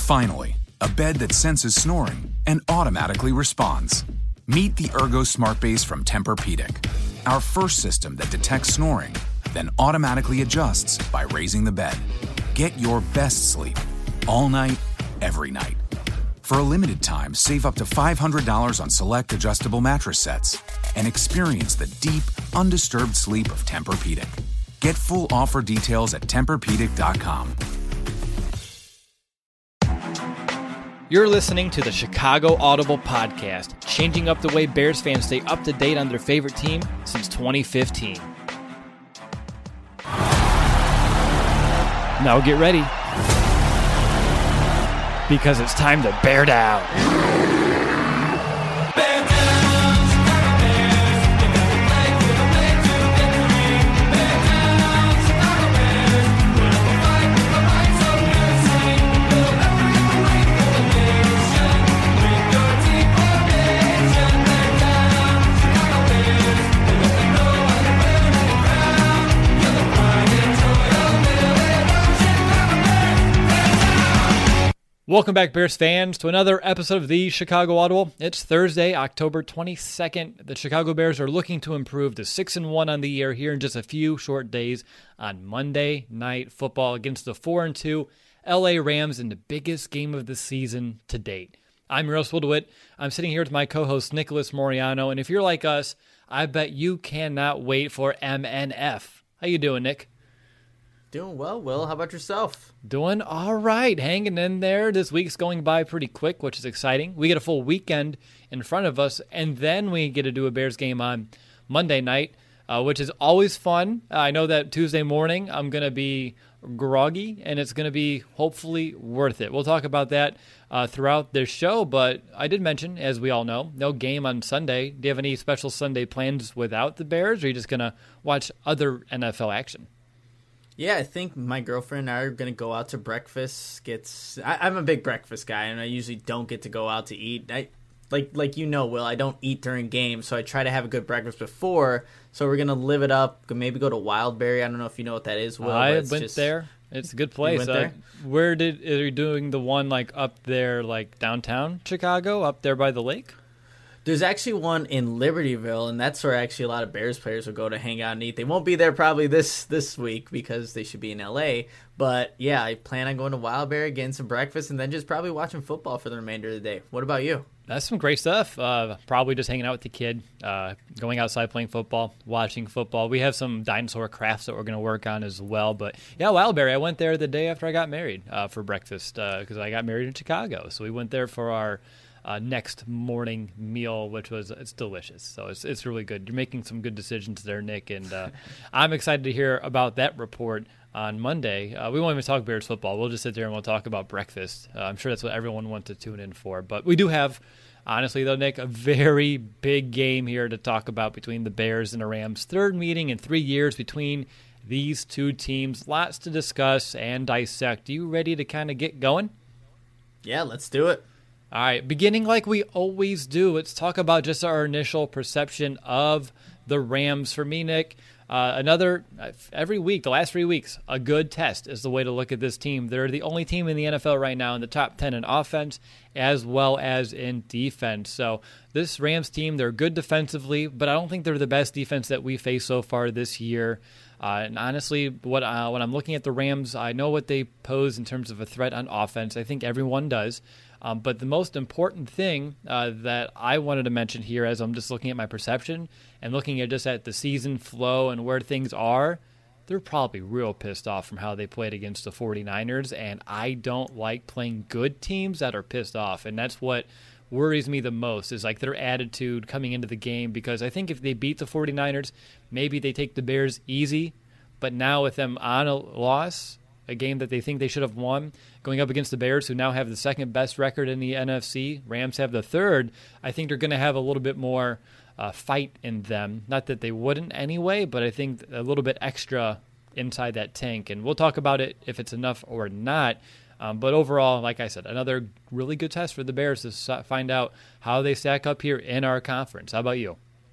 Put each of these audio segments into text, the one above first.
Finally, a bed that senses snoring and automatically responds. Meet the Ergo Smart Base from Tempur-Pedic, our first system that detects snoring, then automatically adjusts by raising the bed. Get your best sleep all night, every night. For a limited time, save up to $500 on select adjustable mattress sets and experience the deep, undisturbed sleep of Tempur-Pedic. Get full offer details at TempurPedic.com. You're listening to the Chicago Audible Podcast, changing up the way Bears fans stay up to date on their favorite team since 2015. Now get ready, because it's time to bear down. Welcome back, Bears fans, to another episode of the Chicago Audible. It's Thursday, October 22nd. The Chicago Bears are looking to improve to 6-1 on the year here in just a few short days on Monday Night Football against the 4-2 LA Rams in the biggest game of the season to date. I'm Russell DeWitt. I'm sitting here with my co-host Nicholas Moriano, and if you're like us, I bet you cannot wait for MNF. How you doing, Nick? Doing well, Will. How about yourself? Doing all right. Hanging in there. This week's going by pretty quick, which is exciting. We get a full weekend in front of us, and then we get to do a Bears game on Monday night, which is always fun. I know that Tuesday morning I'm going to be groggy, and it's going to be hopefully worth it. We'll talk about that throughout this show, but I did mention, as we all know, no game on Sunday. Do you have any special Sunday plans without the Bears, or are you just going to watch other NFL action? Yeah, I think my girlfriend and I are going to go out to breakfast. I'm a big breakfast guy, and I usually don't get to go out to eat. Like you know, Will, I don't eat during games, so I try to have a good breakfast before. So we're going to live it up, maybe go to Wildberry. I don't know if you know what that is, Will. I went there. It's a good place. You went there? Are you doing the one like up there, like downtown Chicago, up there by the lake? There's actually one in Libertyville, and that's where actually a lot of Bears players will go to hang out and eat. They won't be there probably this week because they should be in L.A., but yeah, I plan on going to Wildberry, getting some breakfast, and then just probably watching football for the remainder of the day. What about you? That's some great stuff. Probably just hanging out with the kid, going outside playing football, watching football. We have some dinosaur crafts that we're going to work on as well. But yeah, Wildberry, I went there the day after I got married for breakfast because I got married in Chicago. So we went there for our next morning meal, which it's delicious. So it's really good. You're making some good decisions there, Nick, and I'm excited to hear about that report on Monday. We won't even talk Bears football. We'll just sit there and we'll talk about breakfast. I'm sure that's what everyone wants to tune in for. But we do have, honestly though, Nick, a very big game here to talk about between the Bears and the Rams. Third meeting in 3 years between these two teams. Lots to discuss and dissect. Are you ready to kind of get going? Yeah, let's do it. All right, beginning like we always do, let's talk about just our initial perception of the Rams. For me, Nick, every week, the last 3 weeks, a good test is the way to look at this team. They're the only team in the NFL right now in the top 10 in offense as well as in defense. So this Rams team, they're good defensively, but I don't think they're the best defense that we faced so far this year. And honestly, when I'm looking at the Rams, I know what they pose in terms of a threat on offense. I think everyone does. But the most important thing that I wanted to mention here as I'm just looking at my perception and looking at the season flow and where things are, they're probably real pissed off from how they played against the 49ers, and I don't like playing good teams that are pissed off, and that's what worries me the most is like their attitude coming into the game, because I think if they beat the 49ers, maybe they take the Bears easy, but now with them on a loss, a game that they think they should have won, going up against the Bears, who now have the second best record in the NFC. Rams have the third. I think they're going to have a little bit more fight in them. Not that they wouldn't anyway, but I think a little bit extra inside that tank. And we'll talk about it if it's enough or not. But overall, like I said, another really good test for the Bears to find out how they stack up here in our conference. How about you?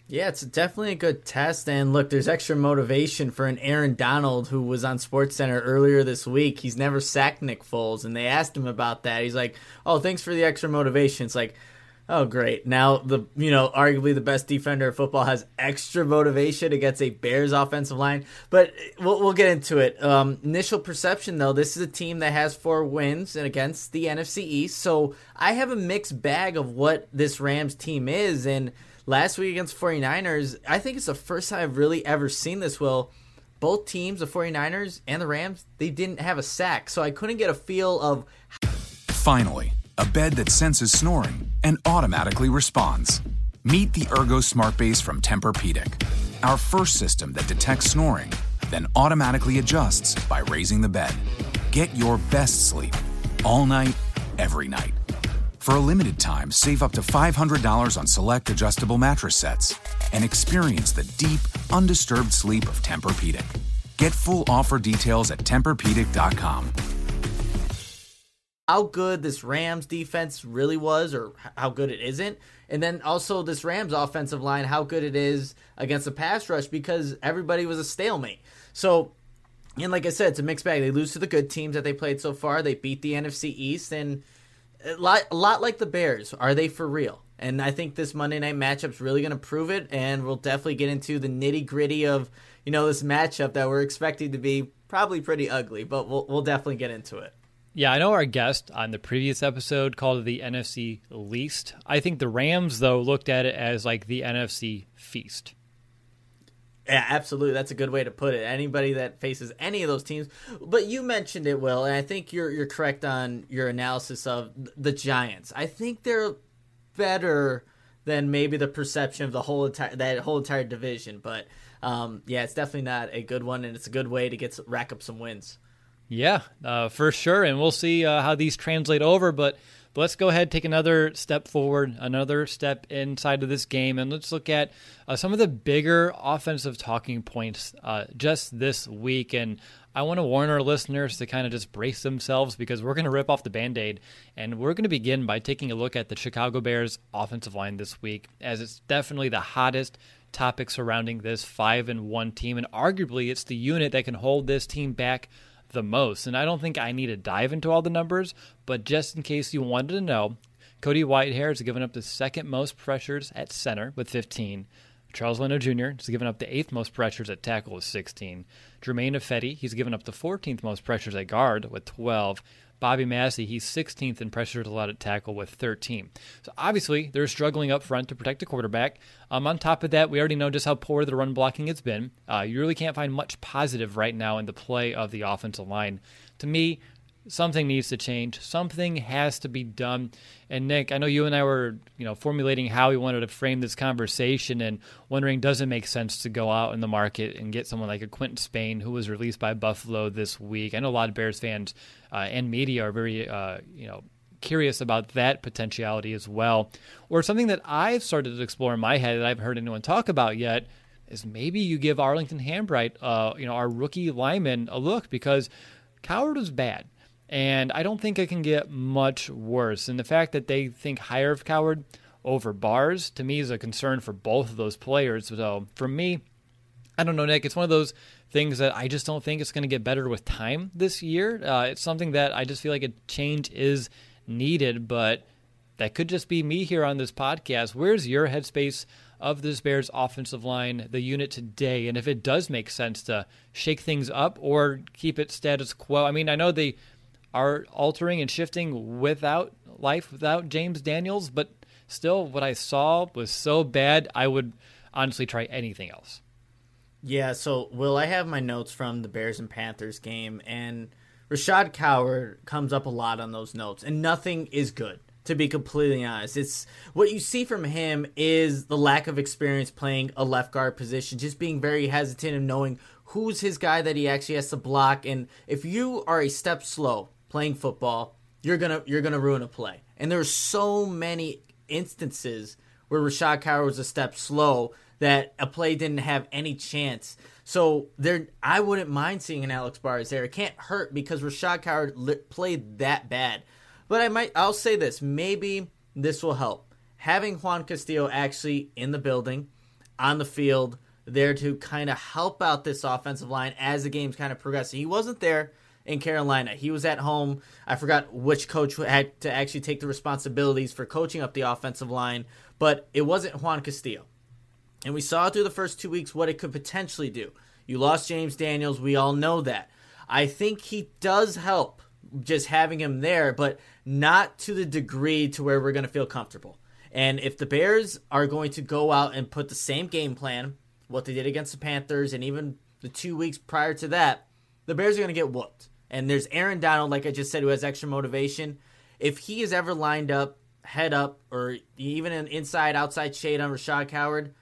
Yeah, it's definitely a good test. And look, there's extra motivation for an Aaron Donald who was on SportsCenter earlier this week. He's never sacked Nick Foles, and they asked him about that. He's like, "Oh, thanks for the extra motivation." It's like, oh, great. Now arguably the best defender of football has extra motivation against a Bears offensive line. But we'll get into it. Initial perception, though, this is a team that has 4 wins and against the NFC East. So I have a mixed bag of what this Rams team is. And last week against 49ers, I think it's the first time I've really ever seen this, Will. Both teams, the 49ers and the Rams, they didn't have a sack. So I couldn't get a feel of... Finally, a bed that senses snoring and automatically responds. Meet the Ergo Smart Base from Tempur-Pedic, our first system that detects snoring, then automatically adjusts by raising the bed. Get your best sleep all night, every night. For a limited time, save up to $500 on select adjustable mattress sets and experience the deep, undisturbed sleep of Tempur-Pedic. Get full offer details at TempurPedic.com. How good this Rams defense really was, or how good it isn't, and then also this Rams offensive line, how good it is against the pass rush, because everybody was a stalemate. So, and like I said, it's a mixed bag. They lose to the good teams that they played so far. They beat the NFC East, and a lot like the Bears. Are they for real? And I think this Monday night matchup's really going to prove it, and we'll definitely get into the nitty-gritty of, this matchup that we're expecting to be probably pretty ugly, but we'll definitely get into it. Yeah, I know our guest on the previous episode called it the NFC least. I think the Rams, though, looked at it as like the NFC feast. Yeah, absolutely. That's a good way to put it. Anybody that faces any of those teams. But you mentioned it, Will, and I think you're correct on your analysis of the Giants. I think they're better than maybe the perception of that whole entire division. But yeah, it's definitely not a good one, and it's a good way to rack up some wins. Yeah, for sure, and we'll see how these translate over, but let's go ahead, take another step forward, another step inside of this game, and let's look at some of the bigger offensive talking points just this week. And I want to warn our listeners to kind of just brace themselves, because we're going to rip off the Band-Aid, and we're going to begin by taking a look at the Chicago Bears offensive line this week, as it's definitely the hottest topic surrounding this 5-1 team, and arguably it's the unit that can hold this team back the most. And I don't think I need to dive into all the numbers, but just in case you wanted to know, Cody Whitehair has given up the second most pressures at center with 15. Charles Leno Jr. has given up the 8th most pressures at tackle with 16. Jermaine Ifedi, he's given up the 14th most pressures at guard with 12. Bobby Massey, he's 16th in pressures allowed at tackle with 13. So obviously, they're struggling up front to protect the quarterback. On top of that, we already know just how poor the run blocking has been. You really can't find much positive right now in the play of the offensive line. To me, something needs to change. Something has to be done. And Nick, I know you and I were, formulating how we wanted to frame this conversation and wondering, does it make sense to go out in the market and get someone like a Quentin Spain, who was released by Buffalo this week? I know a lot of Bears fans and media are very, curious about that potentiality as well. Or something that I've started to explore in my head that I haven't heard anyone talk about yet is maybe you give Arlington Hambright, our rookie lineman, a look, because Coward was bad. And I don't think it can get much worse. And the fact that they think higher of Coward over Bars, to me, is a concern for both of those players. So for me, I don't know, Nick. It's one of those things that I just don't think it's going to get better with time this year. It's something that I just feel like a change is needed, but that could just be me here on this podcast. Where's your headspace of this Bears offensive line, the unit today, and if it does make sense to shake things up or keep it status quo? I mean, I know they are altering and shifting without James Daniels, but still, what I saw was so bad, I would honestly try anything else. Yeah, so, Will, I have my notes from the Bears and Panthers game, and Rashad Coward comes up a lot on those notes, and nothing is good, to be completely honest. It's what you see from him is the lack of experience playing a left guard position, just being very hesitant and knowing who's his guy that he actually has to block. And if you are a step slow playing football, you're gonna ruin a play. And there's so many instances where Rashad Coward was a step slow that a play didn't have any chance. So I wouldn't mind seeing an Alex Bars there. It can't hurt because Rashad Coward played that bad. But I'll say this, maybe this will help. Having Juan Castillo actually in the building, on the field, there to kind of help out this offensive line as the game's kind of progressing. He wasn't there in Carolina. He was at home. I forgot which coach had to actually take the responsibilities for coaching up the offensive line, but it wasn't Juan Castillo. And we saw through the first 2 weeks what it could potentially do. You lost James Daniels. We all know that. I think he does help just having him there, but not to the degree to where we're going to feel comfortable. And if the Bears are going to go out and put the same game plan, what they did against the Panthers and even the 2 weeks prior to that, the Bears are going to get whooped. And there's Aaron Donald, like I just said, who has extra motivation. If he is ever lined up, head up, or even an inside-outside shade on Rashad Coward,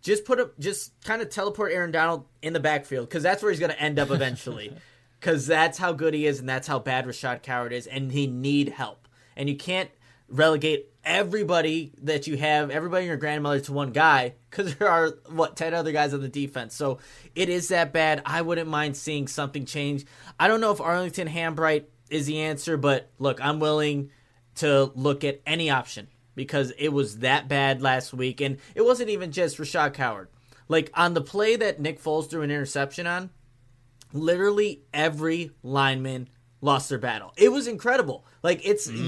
just kind of teleport Aaron Donald in the backfield, because that's where he's going to end up eventually. Because that's how good he is, and that's how bad Rashad Coward is, and he need help. And you can't relegate everybody that you have, everybody and your grandmother, to one guy, because there are, 10 other guys on the defense. So it is that bad. I wouldn't mind seeing something change. I don't know if Arlington Hambright is the answer, but look, I'm willing to look at any option, because it was that bad last week. And it wasn't even just Rashad Coward. Like, on the play that Nick Foles threw an interception on, literally every lineman lost their battle. It was incredible. Like,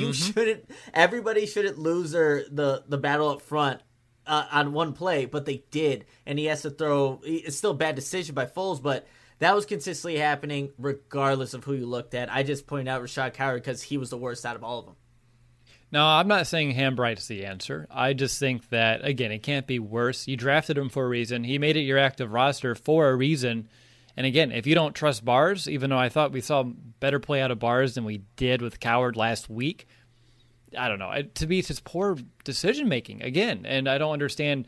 everybody shouldn't lose the battle up front on one play, but they did. And he has to throw, it's still a bad decision by Foles, but that was consistently happening regardless of who you looked at. I just pointed out Rashad Coward because he was the worst out of all of them. No, I'm not saying Hambright's the answer. I just think that, again, it can't be worse. You drafted him for a reason. He made it your active roster for a reason. And again, if you don't trust Bars, even though I thought we saw better play out of Bars than we did with Coward last week, I don't know. To me, it's just poor decision-making, again. And I don't understand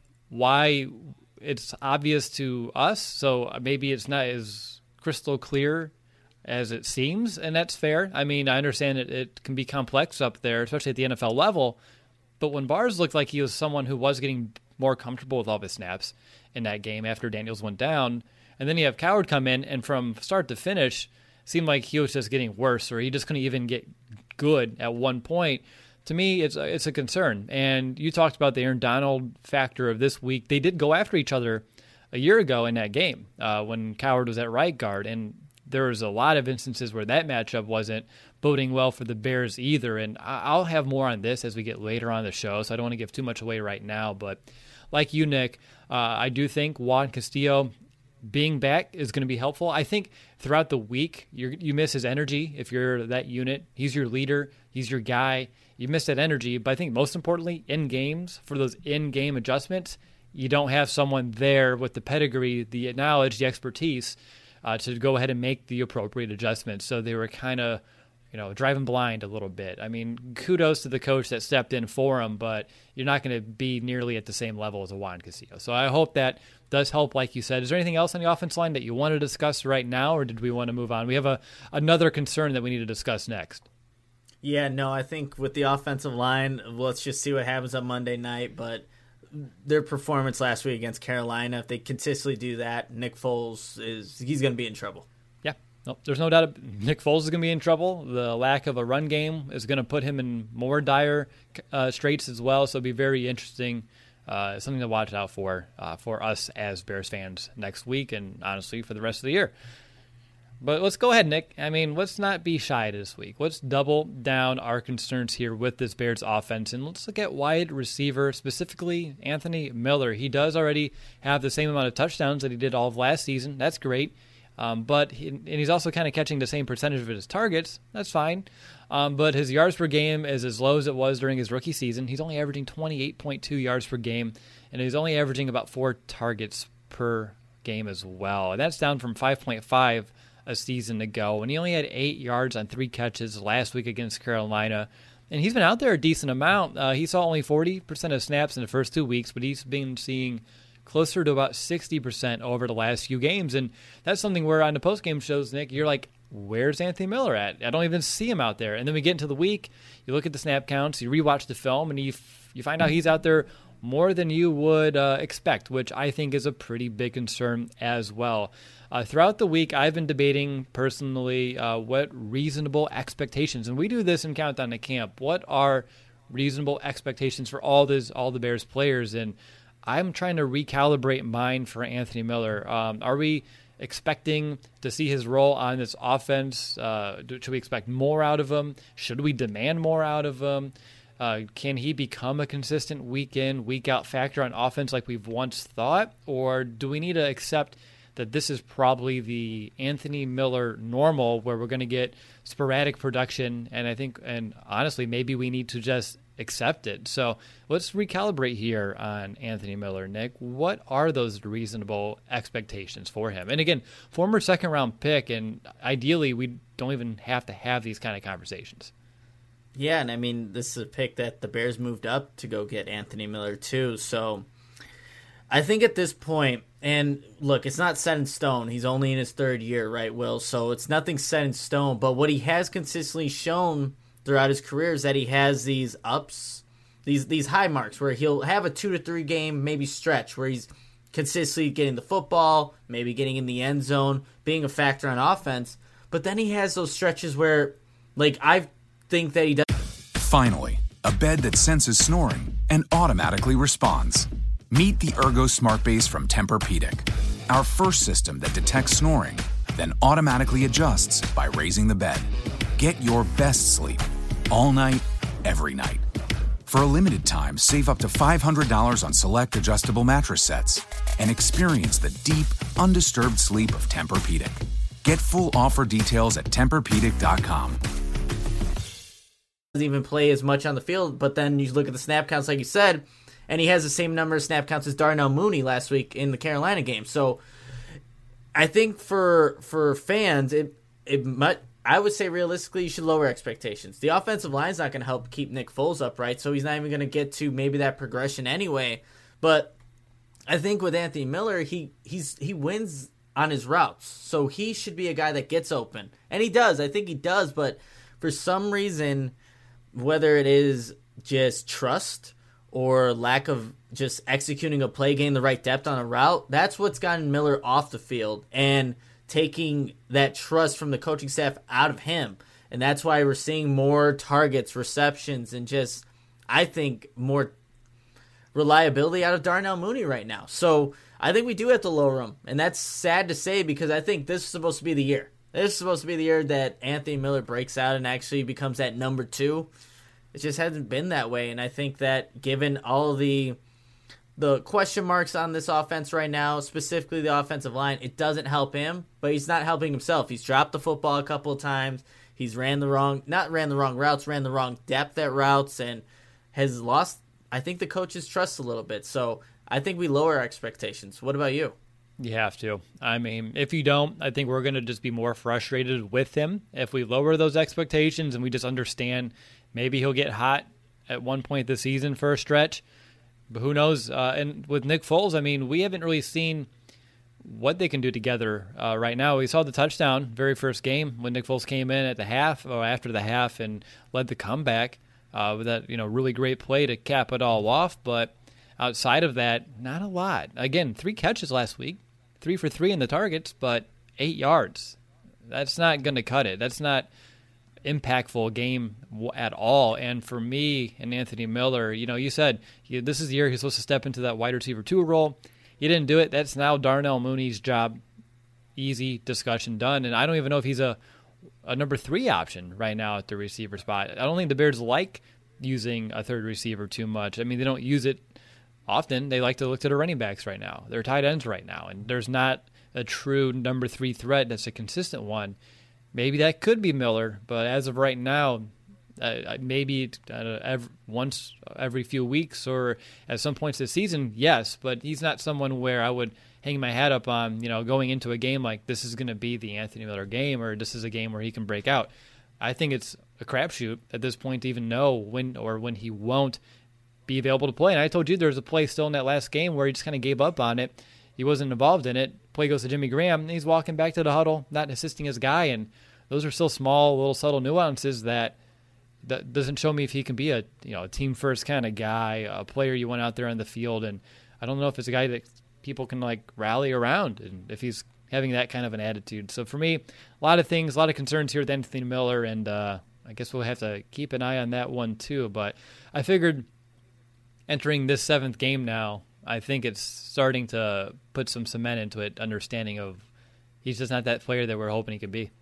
why it's obvious to us. So maybe it's not as crystal clear as it seems, and that's fair. I mean, I understand it can be complex up there, especially at the NFL level, but when Bars looked like he was someone who was getting more comfortable with all of his snaps in that game after Daniels went down, and then you have Coward come in, and from start to finish, seemed like he was just getting worse, or he just couldn't even get good at one point. To me, it's a concern. And you talked about the Aaron Donald factor of this week. They did go after each other a year ago in that game when Coward was at right guard, and there was a lot of instances where that matchup wasn't boding well for the Bears either. And I'll have more on this as we get later on the show, so I don't want to give too much away right now. But like you, Nick, I do think Juan Castillo being back is going to be helpful. I think throughout the week, you miss his energy if you're that unit. He's your leader. He's your guy. You miss that energy. But I think most importantly, in games, for those in-game adjustments, you don't have someone there with the pedigree, the knowledge, the expertise to go ahead and make the appropriate adjustments. So they were kind of, driving blind a little bit. I mean, kudos to the coach that stepped in for him, but you're not going to be nearly at the same level as a Juan Castillo. So I hope that does help, like you said. Is there anything else on the offense line that you want to discuss right now, or did we want to move on? We have another concern that we need to discuss next. Yeah, no, I think with the offensive line, let's just see what happens on Monday night, but their performance last week against Carolina, if they consistently do that, Nick Foles he's going to be in trouble. Yeah, no, there's no doubt Nick Foles is going to be in trouble. The lack of a run game is going to put him in more dire straits as well, so it'll be very interesting, something to watch out for us as Bears fans next week and honestly for the rest of the year. But let's go ahead, Nick. I mean, let's not be shy this week. Let's double down our concerns here with this Bears offense, and let's look at wide receiver, specifically Anthony Miller. He does already have the same amount of touchdowns that he did all of last season. That's great. But he's also kind of catching the same percentage of his targets. That's fine. But his yards per game is as low as it was during his rookie season. He's only averaging 28.2 yards per game, and he's only averaging about 4 targets per game as well. And that's down from 5.5 a season ago, and he only had 8 yards on 3 catches last week against Carolina. And he's been out there a decent amount. He saw only 40% of snaps in the first 2 weeks, but he's been seeing closer to about 60% over the last few games. And that's something where on the postgame shows, Nick, you're like, where's Anthony Miller at? I don't even see him out there. And then we get into the week, you look at the snap counts, you rewatch the film, and you find out he's out there more than you would expect, which I think is a pretty big concern as well. Throughout the week, I've been debating personally what reasonable expectations, and we do this in Countdown to Camp, what are reasonable expectations for all the Bears players? And I'm trying to recalibrate mine for Anthony Miller. Are we expecting to see his role on this offense? Should we expect more out of him? Should we demand more out of him? Can he become a consistent week in, week out factor on offense like we've once thought? Or do we need to accept that this is probably the Anthony Miller normal where we're going to get sporadic production? And honestly, maybe we need to just accept it. So let's recalibrate here on Anthony Miller, Nick. What are those reasonable expectations for him? And again, former second round pick, and ideally we don't even have to have these kind of conversations. Yeah, and I mean, this is a pick that the Bears moved up to go get Anthony Miller too. So I think at this point, and look, it's not set in stone. He's only in his third year, right, Will? So it's nothing set in stone. But what he has consistently shown throughout his career is that he has these ups, these high marks where he'll have a 2 to 3 game maybe stretch where he's consistently getting the football, maybe getting in the end zone, being a factor on offense. But then he has those stretches where, like, I think that he does. Finally, a bed that senses snoring and automatically responds. Meet the Ergo Smart Base from Tempur-Pedic, our first system that detects snoring, then automatically adjusts by raising the bed. Get your best sleep all night, every night. For a limited time, save up to $500 on select adjustable mattress sets and experience the deep, undisturbed sleep of Tempur-Pedic. Get full offer details at TempurPedic.com. Doesn't even play as much on the field, but then you look at the snap counts, like you said, and he has the same number of snap counts as Darnell Mooney last week in the Carolina game. So I think for fans, it might. I would say realistically, you should lower expectations. The offensive line is not going to help keep Nick Foles upright, so he's not even going to get to maybe that progression anyway. But I think with Anthony Miller, he wins on his routes, so he should be a guy that gets open, and he does. I think he does, but for some reason, whether it is just trust or lack of just executing a play, getting the right depth on a route, that's what's gotten Miller off the field and taking that trust from the coaching staff out of him. And that's why we're seeing more targets, receptions, and just, I think, more reliability out of Darnell Mooney right now. So I think we do have to lower him. And that's sad to say because I think this is supposed to be the year. This is supposed to be the year that Anthony Miller breaks out and actually becomes that number 2. It just hasn't been that way. And I think that given all the question marks on this offense right now, specifically the offensive line, it doesn't help him, but he's not helping himself. He's dropped the football a couple of times. He's ran the wrong depth at routes, and has lost, I think, the coach's trust a little bit. So I think we lower our expectations. What about you? You have to. I mean, if you don't, I think we're going to just be more frustrated with him. If we lower those expectations and we just understand maybe he'll get hot at one point this season for a stretch, but who knows? And with Nick Foles, I mean, we haven't really seen what they can do together right now. We saw the touchdown very first game when Nick Foles came in at the half or after the half and led the comeback with that really great play to cap it all off. But outside of that, not a lot. Again, 3 catches last week, 3 for 3 in the targets, but 8 yards. That's not going to cut it. That's not impactful game at all. And for me and Anthony Miller, you said this is the year he's supposed to step into that wide receiver 2 role. He didn't do it. That's now Darnell Mooney's job. Easy discussion done. And I don't even know if he's a number 3 option right now at the receiver spot. I don't think the Bears like using a third receiver too much. I mean, they don't use it often. They like to look to the running backs right now. They're tight ends right now. And there's not a true number 3 threat that's a consistent one. Maybe that could be Miller, but as of right now, maybe once every few weeks or at some points this season, yes, but he's not someone where I would hang my hat up on, going into a game like this is going to be the Anthony Miller game or this is a game where he can break out. I think it's a crapshoot at this point to even know when he won't be available to play. And I told you there was a play still in that last game where he just kind of gave up on it. He wasn't involved in it. Play goes to Jimmy Graham, and he's walking back to the huddle, not assisting his guy. And those are still small, little subtle nuances that doesn't show me if he can be a team first kind of guy, a player you want out there on the field. And I don't know if it's a guy that people can rally around, and if he's having that kind of an attitude. So for me, a lot of things, a lot of concerns here with Anthony Miller, and I guess we'll have to keep an eye on that one too. But I figured entering this 7th game now, I think it's starting to put some cement into it, understanding of he's just not that player that we're hoping he could be.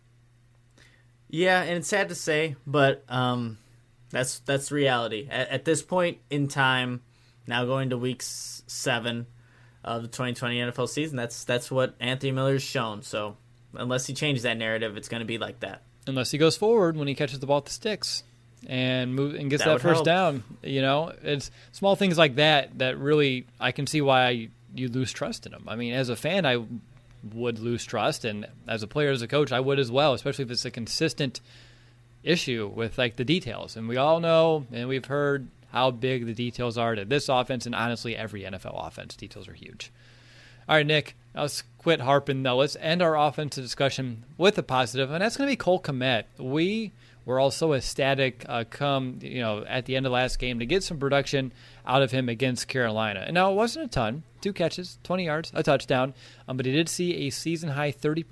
Yeah, and it's sad to say, but that's reality. At this point in time, now going to week 7 of the 2020 NFL season, that's what Anthony Miller's shown. So unless he changes that narrative, it's going to be like that. Unless he goes forward when he catches the ball at the sticks and gets that first help. down. It's small things like that that really I can see why you lose trust in him. I mean, as a fan, I would lose trust, and as a player, as a coach, I would as well, especially if it's a consistent issue with like the details. And we all know, and we've heard how big the details are to this offense, and honestly, every NFL offense. Details are huge. All right, Nick, let's quit harping, though. Let's end our offensive discussion with a positive, and that's going to be Cole Kmet. We were all so ecstatic at the end of last game to get some production out of him against Carolina. And now it wasn't a ton, 2 catches, 20 yards, a touchdown, but he did see a season-high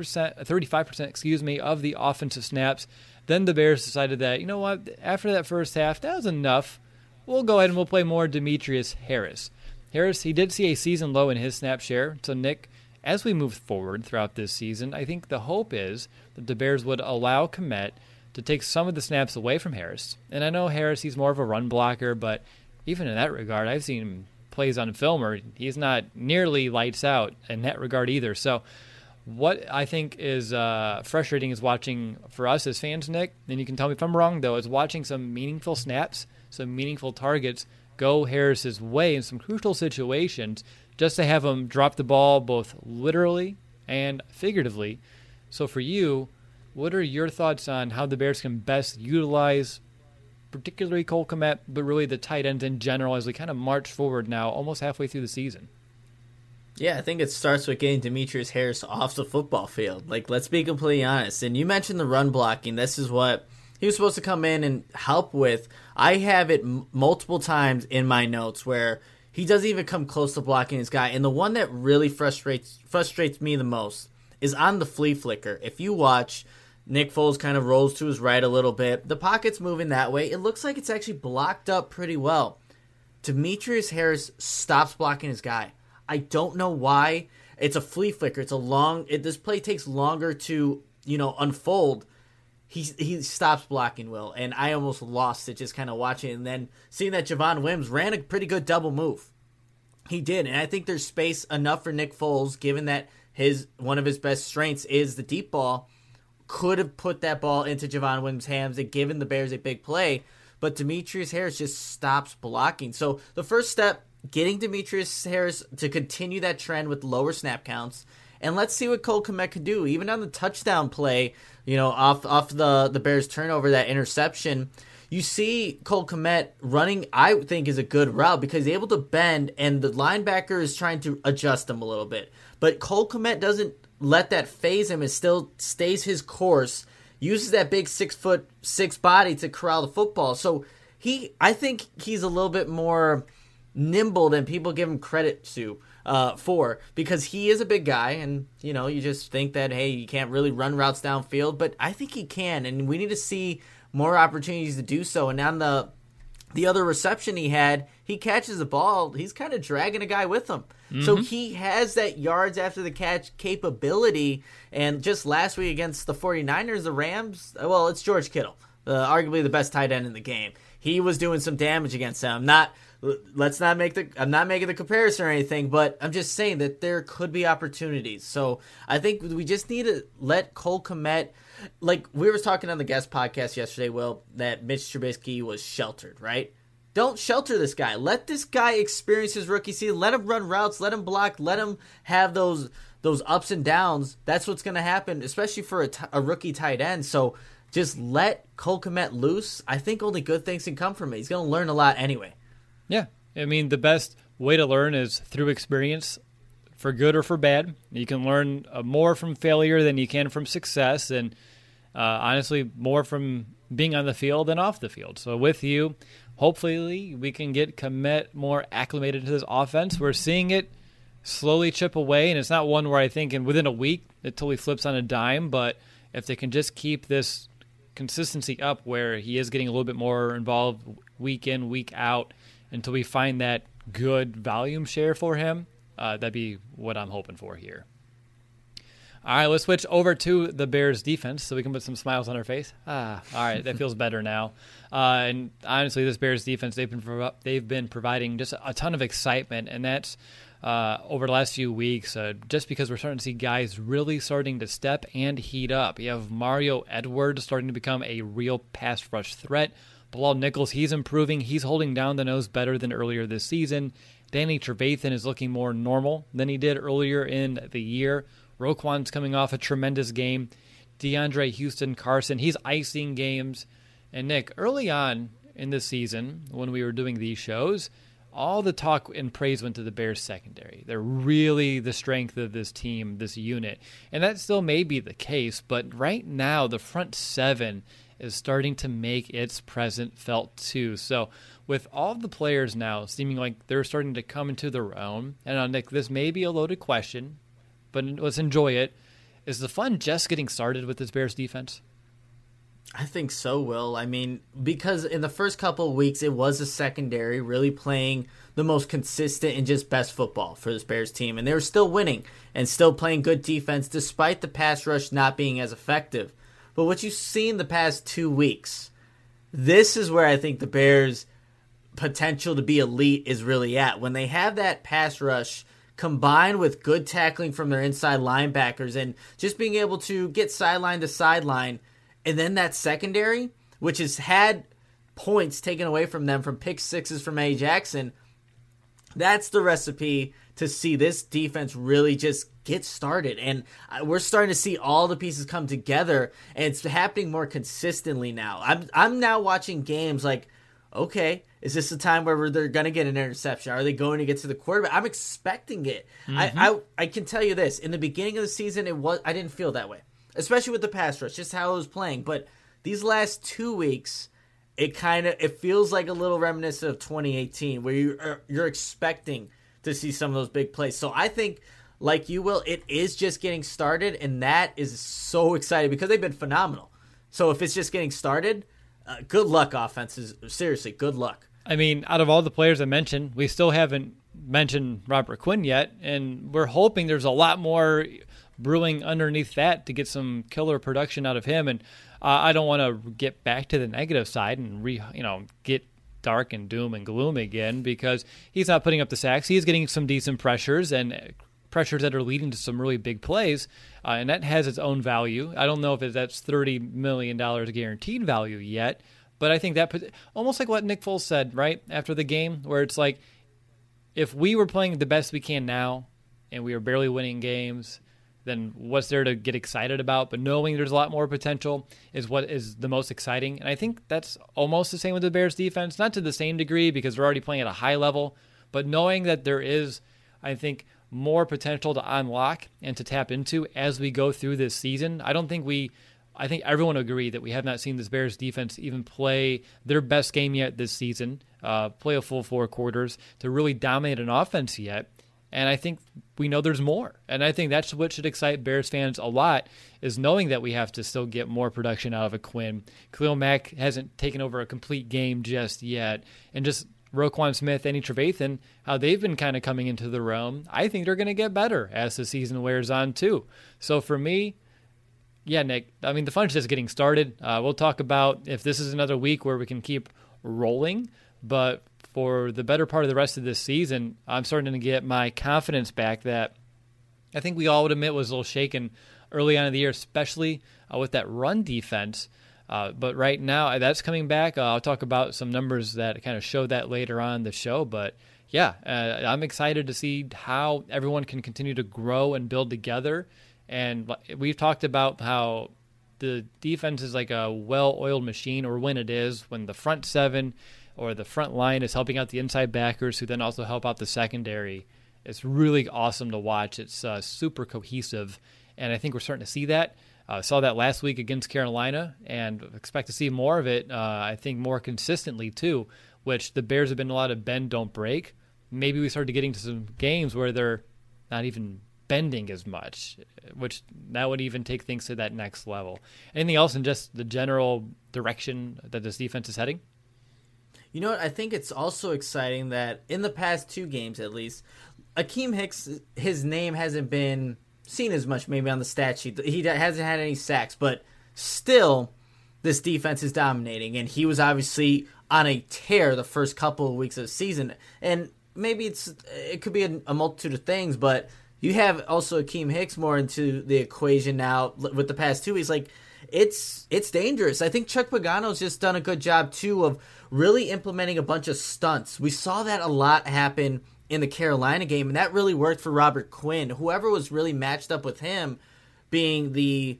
35% of the offensive snaps. Then the Bears decided that, you know what, after that first half, that was enough. We'll go ahead and we'll play more Demetrius Harris. Harris, he did see a season low in his snap share. So, Nick, as we move forward throughout this season, I think the hope is that the Bears would allow Kmet to take some of the snaps away from Harris. And I know Harris, he's more of a run blocker, but even in that regard, I've seen him plays on film where he's not nearly lights out in that regard either. So what I think is frustrating is watching, for us as fans, Nick, and you can tell me if I'm wrong, though, is watching some meaningful snaps, some meaningful targets go Harris's way in some crucial situations just to have him drop the ball both literally and figuratively. So for you, what are your thoughts on how the Bears can best utilize particularly Cole Kmet, but really the tight ends in general as we kind of march forward now almost halfway through the season? Yeah, I think it starts with getting Demetrius Harris off the football field. Like, let's be completely honest. And you mentioned the run blocking. This is what he was supposed to come in and help with. I have it multiple times in my notes where he doesn't even come close to blocking his guy. And the one that really frustrates me the most is on the flea flicker. If you watch, Nick Foles kind of rolls to his right a little bit. The pocket's moving that way. It looks like it's actually blocked up pretty well. Demetrius Harris stops blocking his guy. I don't know why. It's a flea flicker. It's a long. This play takes longer to unfold. He stops blocking, Will, and I almost lost it just kind of watching it. And then seeing that Javon Wims ran a pretty good double move. He did, and I think there's space enough for Nick Foles, given that one of his best strengths is the deep ball. Could have put that ball into Javon Wims' hands and given the Bears a big play, but Demetrius Harris just stops blocking. So the first step, getting Demetrius Harris to continue that trend with lower snap counts, and let's see what Cole Kmet can do. Even on the touchdown play, off the Bears turnover, that interception, you see Cole Kmet running, I think, is a good route because he's able to bend, and the linebacker is trying to adjust him a little bit. But Cole Kmet doesn't let that phase him and still stays his course, uses that big 6'6" body to corral the football. So I think he's a little bit more nimble than people give him credit for, because he is a big guy, and you just think that, hey, you can't really run routes downfield, but I think he can, and we need to see more opportunities to do so. And on the other reception he had, he catches the ball, he's kind of dragging a guy with him. Mm-hmm. So he has that yards after the catch capability. And just last week against the 49ers, the Rams, well, it's George Kittle, arguably the best tight end in the game. He was doing some damage against them. I'm not making the comparison or anything, but I'm just saying that there could be opportunities. So I think we just need to let Cole Kmet, like we were talking on the guest podcast yesterday, Will, that Mitch Trubisky was sheltered, right? Don't shelter this guy. Let this guy experience his rookie season. Let him run routes. Let him block. Let him have those ups and downs. That's what's going to happen, especially for a rookie tight end. So just let Cole Kmet loose. I think only good things can come from it. He's going to learn a lot anyway. Yeah. I mean, the best way to learn is through experience, for good or for bad. You can learn more from failure than you can from success, and honestly, more from being on the field than off the field. So with you, hopefully we can get Kmet more acclimated to this offense. We're seeing it slowly chip away, and it's not one where I think within a week it totally flips on a dime, but if they can just keep this consistency up where he is getting a little bit more involved week in, week out, until we find that good volume share for him, that'd be what I'm hoping for here. All right, let's switch over to the Bears defense so we can put some smiles on our face. All right, that feels better now. And honestly, this Bears defense, they've been providing just a ton of excitement, and that's over the last few weeks, just because we're starting to see guys really starting to step and heat up. You have Mario Edwards starting to become a real pass rush threat. Bilal Nichols, he's improving. He's holding down the nose better than earlier this season. Danny Trevathan is looking more normal than he did earlier in the year. Roquan's coming off a tremendous game. DeAndre Houston Carson, he's icing games. And Nick, early on in the season, when we were doing these shows, all the talk and praise went to the Bears secondary. They're really the strength of this team, this unit. And that still may be the case, but right now the front seven is starting to make its presence felt too. So with all the players now seeming like they're starting to come into their own, and Nick, this may be a loaded question, but let's enjoy it. Is the fun just getting started with this Bears defense? I think so, Will. I mean, because in the first couple of weeks, it was a secondary really playing the most consistent and just best football for this Bears team. And they were still winning and still playing good defense despite the pass rush not being as effective. But what you've seen the past 2 weeks, this is where I think the Bears' potential to be elite is really at. When they have that pass rush combined with good tackling from their inside linebackers and just being able to get sideline to sideline, and then that secondary, which has had points taken away from them from pick sixes from A. Jackson, that's the recipe to see this defense really just get started. And we're starting to see all the pieces come together, and it's happening more consistently now. I'm now watching games like, okay, is this the time where they're going to get an interception? Are they going to get to the quarterback? I'm expecting it. Mm-hmm. I can tell you this. In the beginning of the season, I didn't feel that way, especially with the pass rush, just how it was playing. But these last 2 weeks, it feels like a little reminiscent of 2018, where you're expecting to see some of those big plays. So I think, like you will, it is just getting started, and that is so exciting because they've been phenomenal. So if it's just getting started, good luck, offenses. Seriously, good luck. I mean, out of all the players I mentioned, we still haven't mentioned Robert Quinn yet, and we're hoping there's a lot more brewing underneath that to get some killer production out of him. And I don't want to get back to the negative side and get dark and doom and gloom again, because he's not putting up the sacks. He's getting some decent pressures and pressures that are leading to some really big plays, and that has its own value. I don't know if that's $30 million guaranteed value yet, but I think that almost like what Nick Foles said right after the game, where it's like, if we were playing the best we can now and we were barely winning games, then what's there to get excited about? But knowing there's a lot more potential is what is the most exciting. And I think that's almost the same with the Bears defense, not to the same degree because they're already playing at a high level, but knowing that there is, I think, more potential to unlock and to tap into as we go through this season. I think everyone agree that we have not seen this Bears defense even play their best game yet this season, play a full 4 quarters to really dominate an offense yet. And I think we know there's more. And I think that's what should excite Bears fans a lot, is knowing that we have to still get more production out of a Quinn. Khalil Mack hasn't taken over a complete game just yet. And just Roquan Smith, Danny Trevathan, how they've been kind of coming into the realm, I think they're going to get better as the season wears on too. So for me, yeah, Nick, I mean, the fun's just getting started. We'll talk about if this is another week where we can keep rolling, but for the better part of the rest of this season, I'm starting to get my confidence back that I think we all would admit was a little shaken early on in the year, especially with that run defense. But right now, that's coming back. I'll talk about some numbers that kind of show that later on in the show. But yeah, I'm excited to see how everyone can continue to grow and build together. And we've talked about how the defense is like a well-oiled machine, or when the front seven or the front line is helping out the inside backers, who then also help out the secondary. It's really awesome to watch. It's super cohesive, and I think we're starting to see that. Saw that last week against Carolina, and expect to see more of it, I think, more consistently too, which the Bears have been a lot of bend, don't break. Maybe we started getting to some games where they're not even bending as much, which that would even take things to that next level. Anything else in just the general direction that this defense is heading? You know what? I think it's also exciting that in the past 2 games, at least, Akeem Hicks, his name hasn't been seen as much maybe on the stat sheet. He hasn't had any sacks, but still, this defense is dominating. And he was obviously on a tear the first couple of weeks of the season. And maybe it could be a multitude of things, but you have also Akeem Hicks more into the equation now with the past 2 weeks. Like, it's dangerous. I think Chuck Pagano's just done a good job, too, of really implementing a bunch of stunts. We saw that a lot happen in the Carolina game, and that really worked for Robert Quinn. Whoever was really matched up with him being the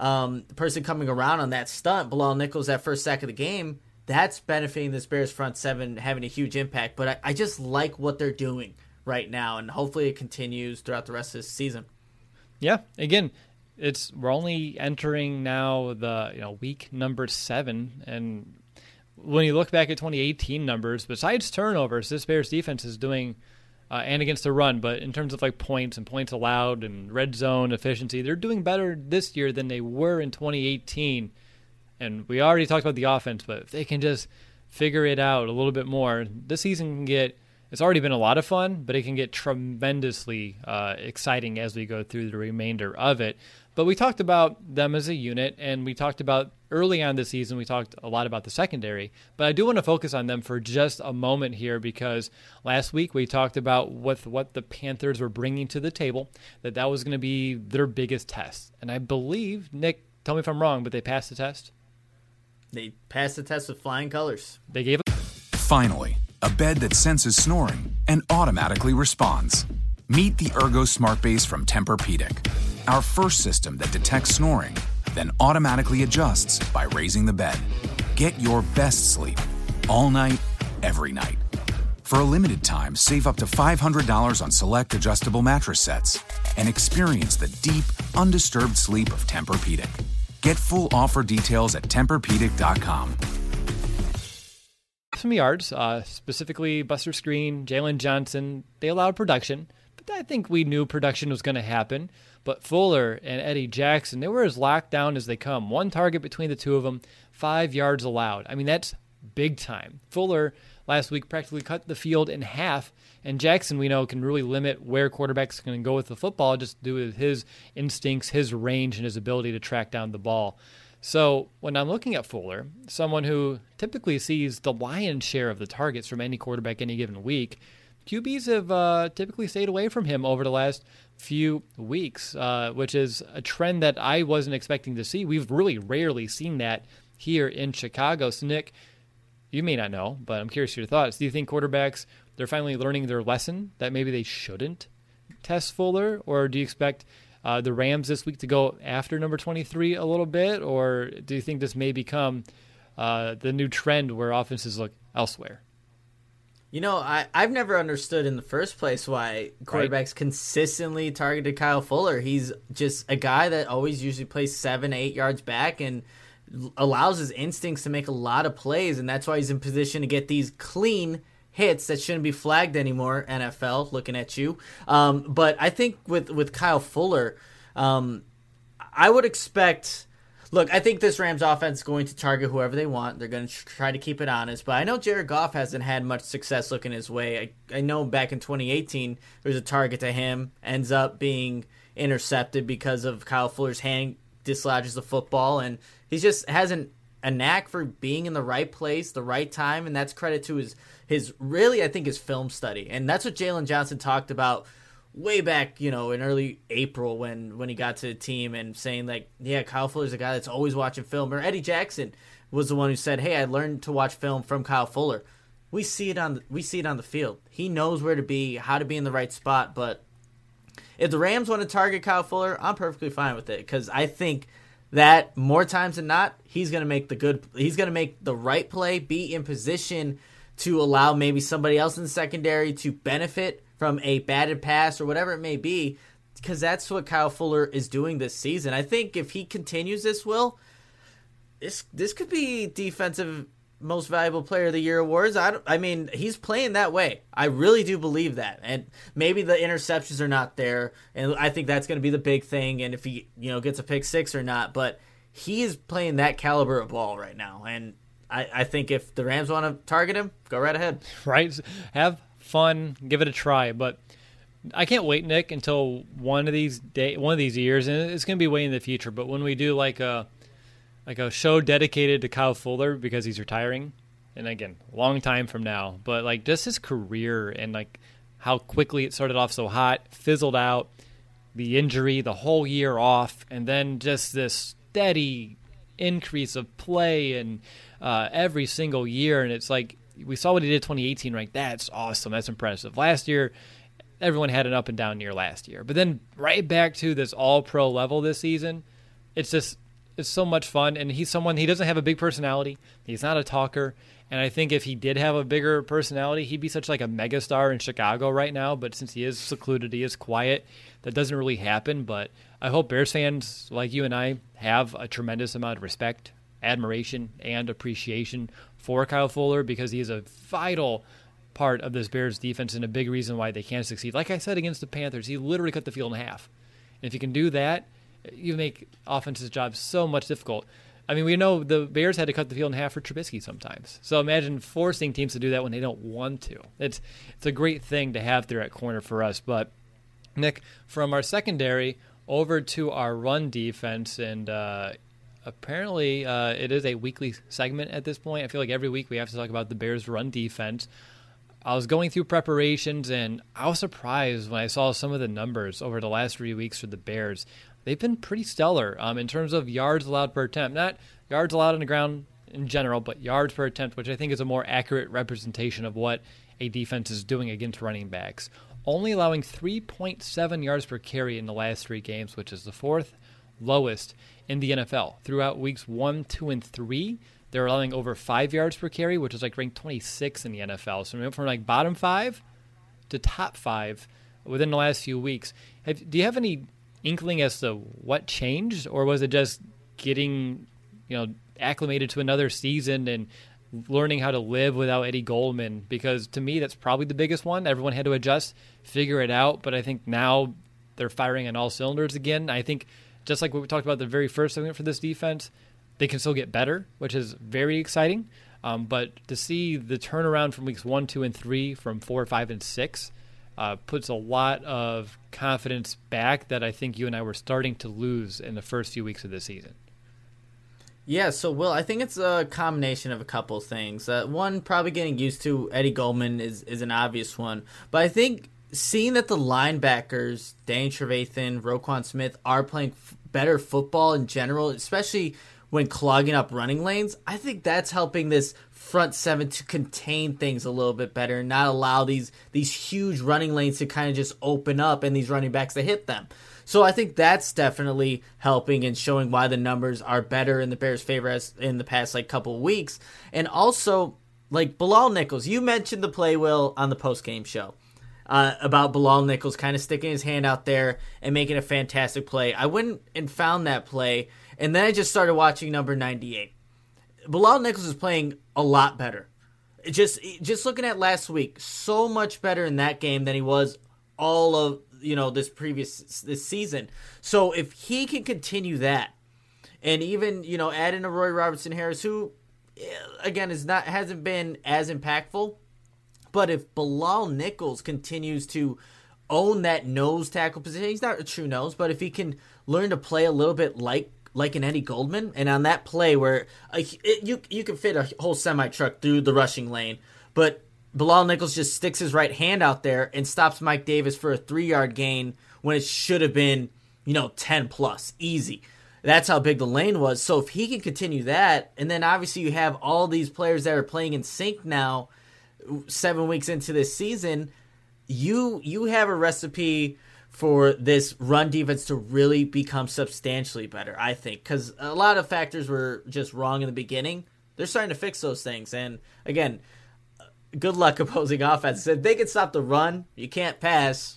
person coming around on that stunt, Bilal Nichols, that first sack of the game, that's benefiting this Bears front seven, having a huge impact. But I just like what they're doing right now, and hopefully it continues throughout the rest of this season. Yeah, again, we're only entering now the week number 7, and when you look back at 2018 numbers, besides turnovers, this Bears defense is doing, and against the run, but in terms of like points and points allowed and red zone efficiency, they're doing better this year than they were in 2018. And we already talked about the offense, but if they can just figure it out a little bit more, this season it's already been a lot of fun, but it can get tremendously exciting as we go through the remainder of it. But we talked about them as a unit, and we talked about early on this season, we talked a lot about the secondary. But I do want to focus on them for just a moment here, because last week we talked about what the Panthers were bringing to the table, that was going to be their biggest test. And I believe, Nick, tell me if I'm wrong, but they passed the test? They passed the test with flying colors. They gave it. Finally, a bed that senses snoring and automatically responds. Meet the Ergo Smart Base from Tempur-Pedic, our first system that detects snoring, then automatically adjusts by raising the bed. Get your best sleep all night, every night. For a limited time, save up to $500 on select adjustable mattress sets and experience the deep, undisturbed sleep of Tempur-Pedic. Get full offer details at TempurPedic.com. Some yards, specifically Buster Screen, Jalen Johnson, they allowed production, but I think we knew production was going to happen. But Fuller and Eddie Jackson, they were as locked down as they come. 1 target between the 2 of them, 5 yards allowed. I mean, that's big time. Fuller last week practically cut the field in half, and Jackson, we know, can really limit where quarterbacks can go with the football just due to his instincts, his range, and his ability to track down the ball. So when I'm looking at Fuller, someone who typically sees the lion's share of the targets from any quarterback any given week, QBs have typically stayed away from him over the last few weeks, which is a trend that I wasn't expecting to see. We've really rarely seen that here in Chicago. So, Nick, you may not know, but I'm curious your thoughts. Do you think quarterbacks, they're finally learning their lesson that maybe they shouldn't test Fuller? Or do you expect the Rams this week to go after number 23 a little bit? Or do you think this may become the new trend where offenses look elsewhere? You know, I've never understood in the first place why quarterbacks consistently targeted Kyle Fuller. He's just a guy that always usually plays 7-8 yards back and allows his instincts to make a lot of plays, and that's why he's in position to get these clean hits that shouldn't be flagged anymore, NFL, looking at you. But I think with Kyle Fuller, I would expect... Look, I think this Rams offense is going to target whoever they want. They're going to try to keep it honest. But I know Jared Goff hasn't had much success looking his way. I know back in 2018, there was a target to him, ends up being intercepted because of Kyle Fuller's hand dislodges the football. And he just hasn't a knack for being in the right place, the right time. And that's credit to his really, I think, his film study. And that's what Jalen Johnson talked about way back, in early April when he got to the team and saying, like, yeah, Kyle Fuller's a guy that's always watching film. Or Eddie Jackson was the one who said, hey, I learned to watch film from Kyle Fuller. We see it on the field. He knows where to be, how to be in the right spot. But if the Rams want to target Kyle Fuller, I'm perfectly fine with it, because I think that more times than not, he's going to make the right play, be in position to allow maybe somebody else in the secondary to benefit from a batted pass or whatever it may be, because that's what Kyle Fuller is doing this season. I think if he continues this, this could be defensive most valuable player of the year awards. I mean, he's playing that way. I really do believe that. And maybe the interceptions are not there, and I think that's going to be the big thing, and if he, gets a pick six or not, but he is playing that caliber of ball right now. And I think if the Rams want to target him, go right ahead. Right? Have fun, give it a try. But I can't wait, Nick, until one of these years, and it's going to be way in the future. But when we do like a show dedicated to Kyle Fuller because he's retiring, and again, long time from now, but like just his career and like how quickly it started off so hot, fizzled out, the injury, the whole year off, and then just this steady increase of play and every single year. And it's like we saw what he did 2018, right? That's awesome. That's impressive. Last year, everyone had an up and down year last year, but then right back to this all-pro level this season. It's so much fun, and he doesn't have a big personality. He's not a talker, and I think if he did have a bigger personality, he'd be such like a megastar in Chicago right now. But since he is secluded, he is quiet, that doesn't really happen. But I hope Bears fans like you and I have a tremendous amount of respect, admiration, and appreciation for Kyle Fuller, because he is a vital part of this Bears defense and a big reason why they can't succeed. Like I said against the Panthers, he literally cut the field in half. And if you can do that, you make offense's job so much difficult. I mean, we know the Bears had to cut the field in half for Trubisky sometimes. So imagine forcing teams to do that when they don't want to. It's a great thing to have there at corner for us. But, Nick, from our secondary over to our run defense, and apparently it is a weekly segment at this point. I feel like every week we have to talk about the Bears' run defense. I was going through preparations, and I was surprised when I saw some of the numbers over the last 3 weeks for the Bears. They've been pretty stellar in terms of yards allowed per attempt. Not yards allowed on the ground in general, but yards per attempt, which I think is a more accurate representation of what a defense is doing against running backs. Only allowing 3.7 yards per carry in the last 3 games, which is the 4th lowest in the NFL. Throughout weeks 1, 2, and 3, they're allowing over 5 yards per carry, which is like ranked 26 in the NFL. So we went from like bottom 5 to top 5 within the last few weeks. Do you have any inkling as to what changed, or was it just getting, acclimated to another season and learning how to live without Eddie Goldman? Because to me, that's probably the biggest one. Everyone had to adjust, figure it out, but I think now they're firing on all cylinders again. I think just like what we talked about the very first segment for this defense, they can still get better, which is very exciting. But to see the turnaround from weeks 1, 2, and 3 from 4, 5, and 6 puts a lot of confidence back that I think you and I were starting to lose in the first few weeks of the season. Yeah, so Will, I think it's a combination of a couple of things. One, probably getting used to Eddie Goldman is an obvious one. But I think seeing that the linebackers, Danny Trevathan, Roquan Smith, are playing better football in general, especially when clogging up running lanes, I think that's helping this front seven to contain things a little bit better and not allow these huge running lanes to kind of just open up and these running backs to hit them. So I think that's definitely helping and showing why the numbers are better in the Bears' favor as in the past couple of weeks. And also, like Bilal Nichols, you mentioned the play, Will, on the post-game show about Bilal Nichols kind of sticking his hand out there and making a fantastic play. I went and found that play, and then I just started watching number 98. Bilal Nichols is playing a lot better. Just looking at last week, so much better in that game than he was all of this season. So if he can continue that, and even add in a Roy Robertson Harris, who again hasn't been as impactful, but if Bilal Nichols continues to own that nose tackle position, he's not a true nose, but if he can learn to play a little bit like an Eddie Goldman, and on that play where you can fit a whole semi-truck through the rushing lane, but Bilal Nichols just sticks his right hand out there and stops Mike Davis for a 3-yard gain when it should have been 10 plus, easy. That's how big the lane was. So if he can continue that, and then obviously you have all these players that are playing in sync now, 7 weeks into this season, you have a recipe for this run defense to really become substantially better, I think, because a lot of factors were just wrong in the beginning. They're starting to fix those things, and again, good luck opposing offense. If they can stop the run, you can't pass.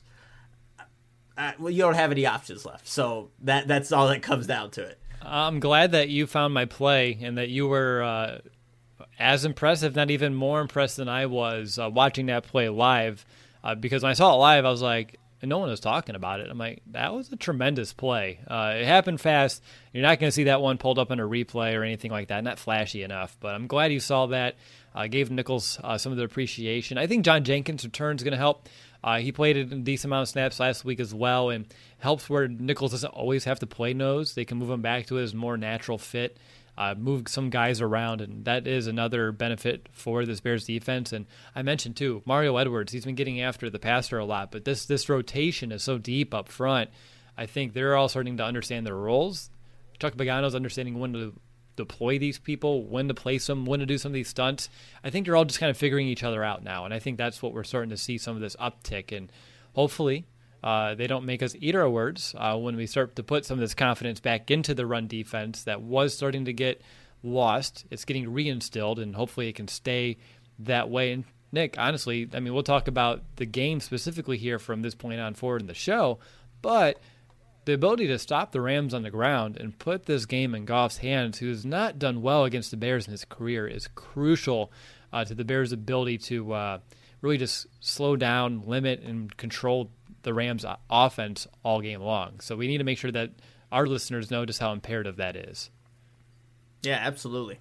Well, you don't have any options left, so that's all that comes down to it. I'm glad that you found my play and that you were as impressed, if not even more impressed than I was watching that play live, because when I saw it live, I was like, and no one was talking about it. I'm like, that was a tremendous play. It happened fast. You're not going to see that one pulled up on a replay or anything like that. Not flashy enough, but I'm glad you saw that. Gave Nichols some of the appreciation. I think John Jenkins' return is going to help. He played a decent amount of snaps last week as well, and helps where Nichols doesn't always have to play nose. They can move him back to his more natural fit, move some guys around, and that is another benefit for this Bears defense. And I mentioned, too, Mario Edwards. He's been getting after the passer a lot, but this rotation is so deep up front. I think they're all starting to understand their roles. Chuck Pagano's understanding when to deploy these people, when to place them, when to do some of these stunts. I think they're all just kind of figuring each other out now, and I think that's what we're starting to see some of this uptick. And hopefully they don't make us eat our words when we start to put some of this confidence back into the run defense that was starting to get lost. It's getting reinstilled, and hopefully it can stay that way. And Nick, honestly, I mean, we'll talk about the game specifically here from this point on forward in the show, but the ability to stop the Rams on the ground and put this game in Goff's hands, who has not done well against the Bears in his career, is crucial to the Bears' ability to really just slow down, limit, and control the Rams' offense all game long. So we need to make sure that our listeners know just how imperative that is. Yeah, absolutely.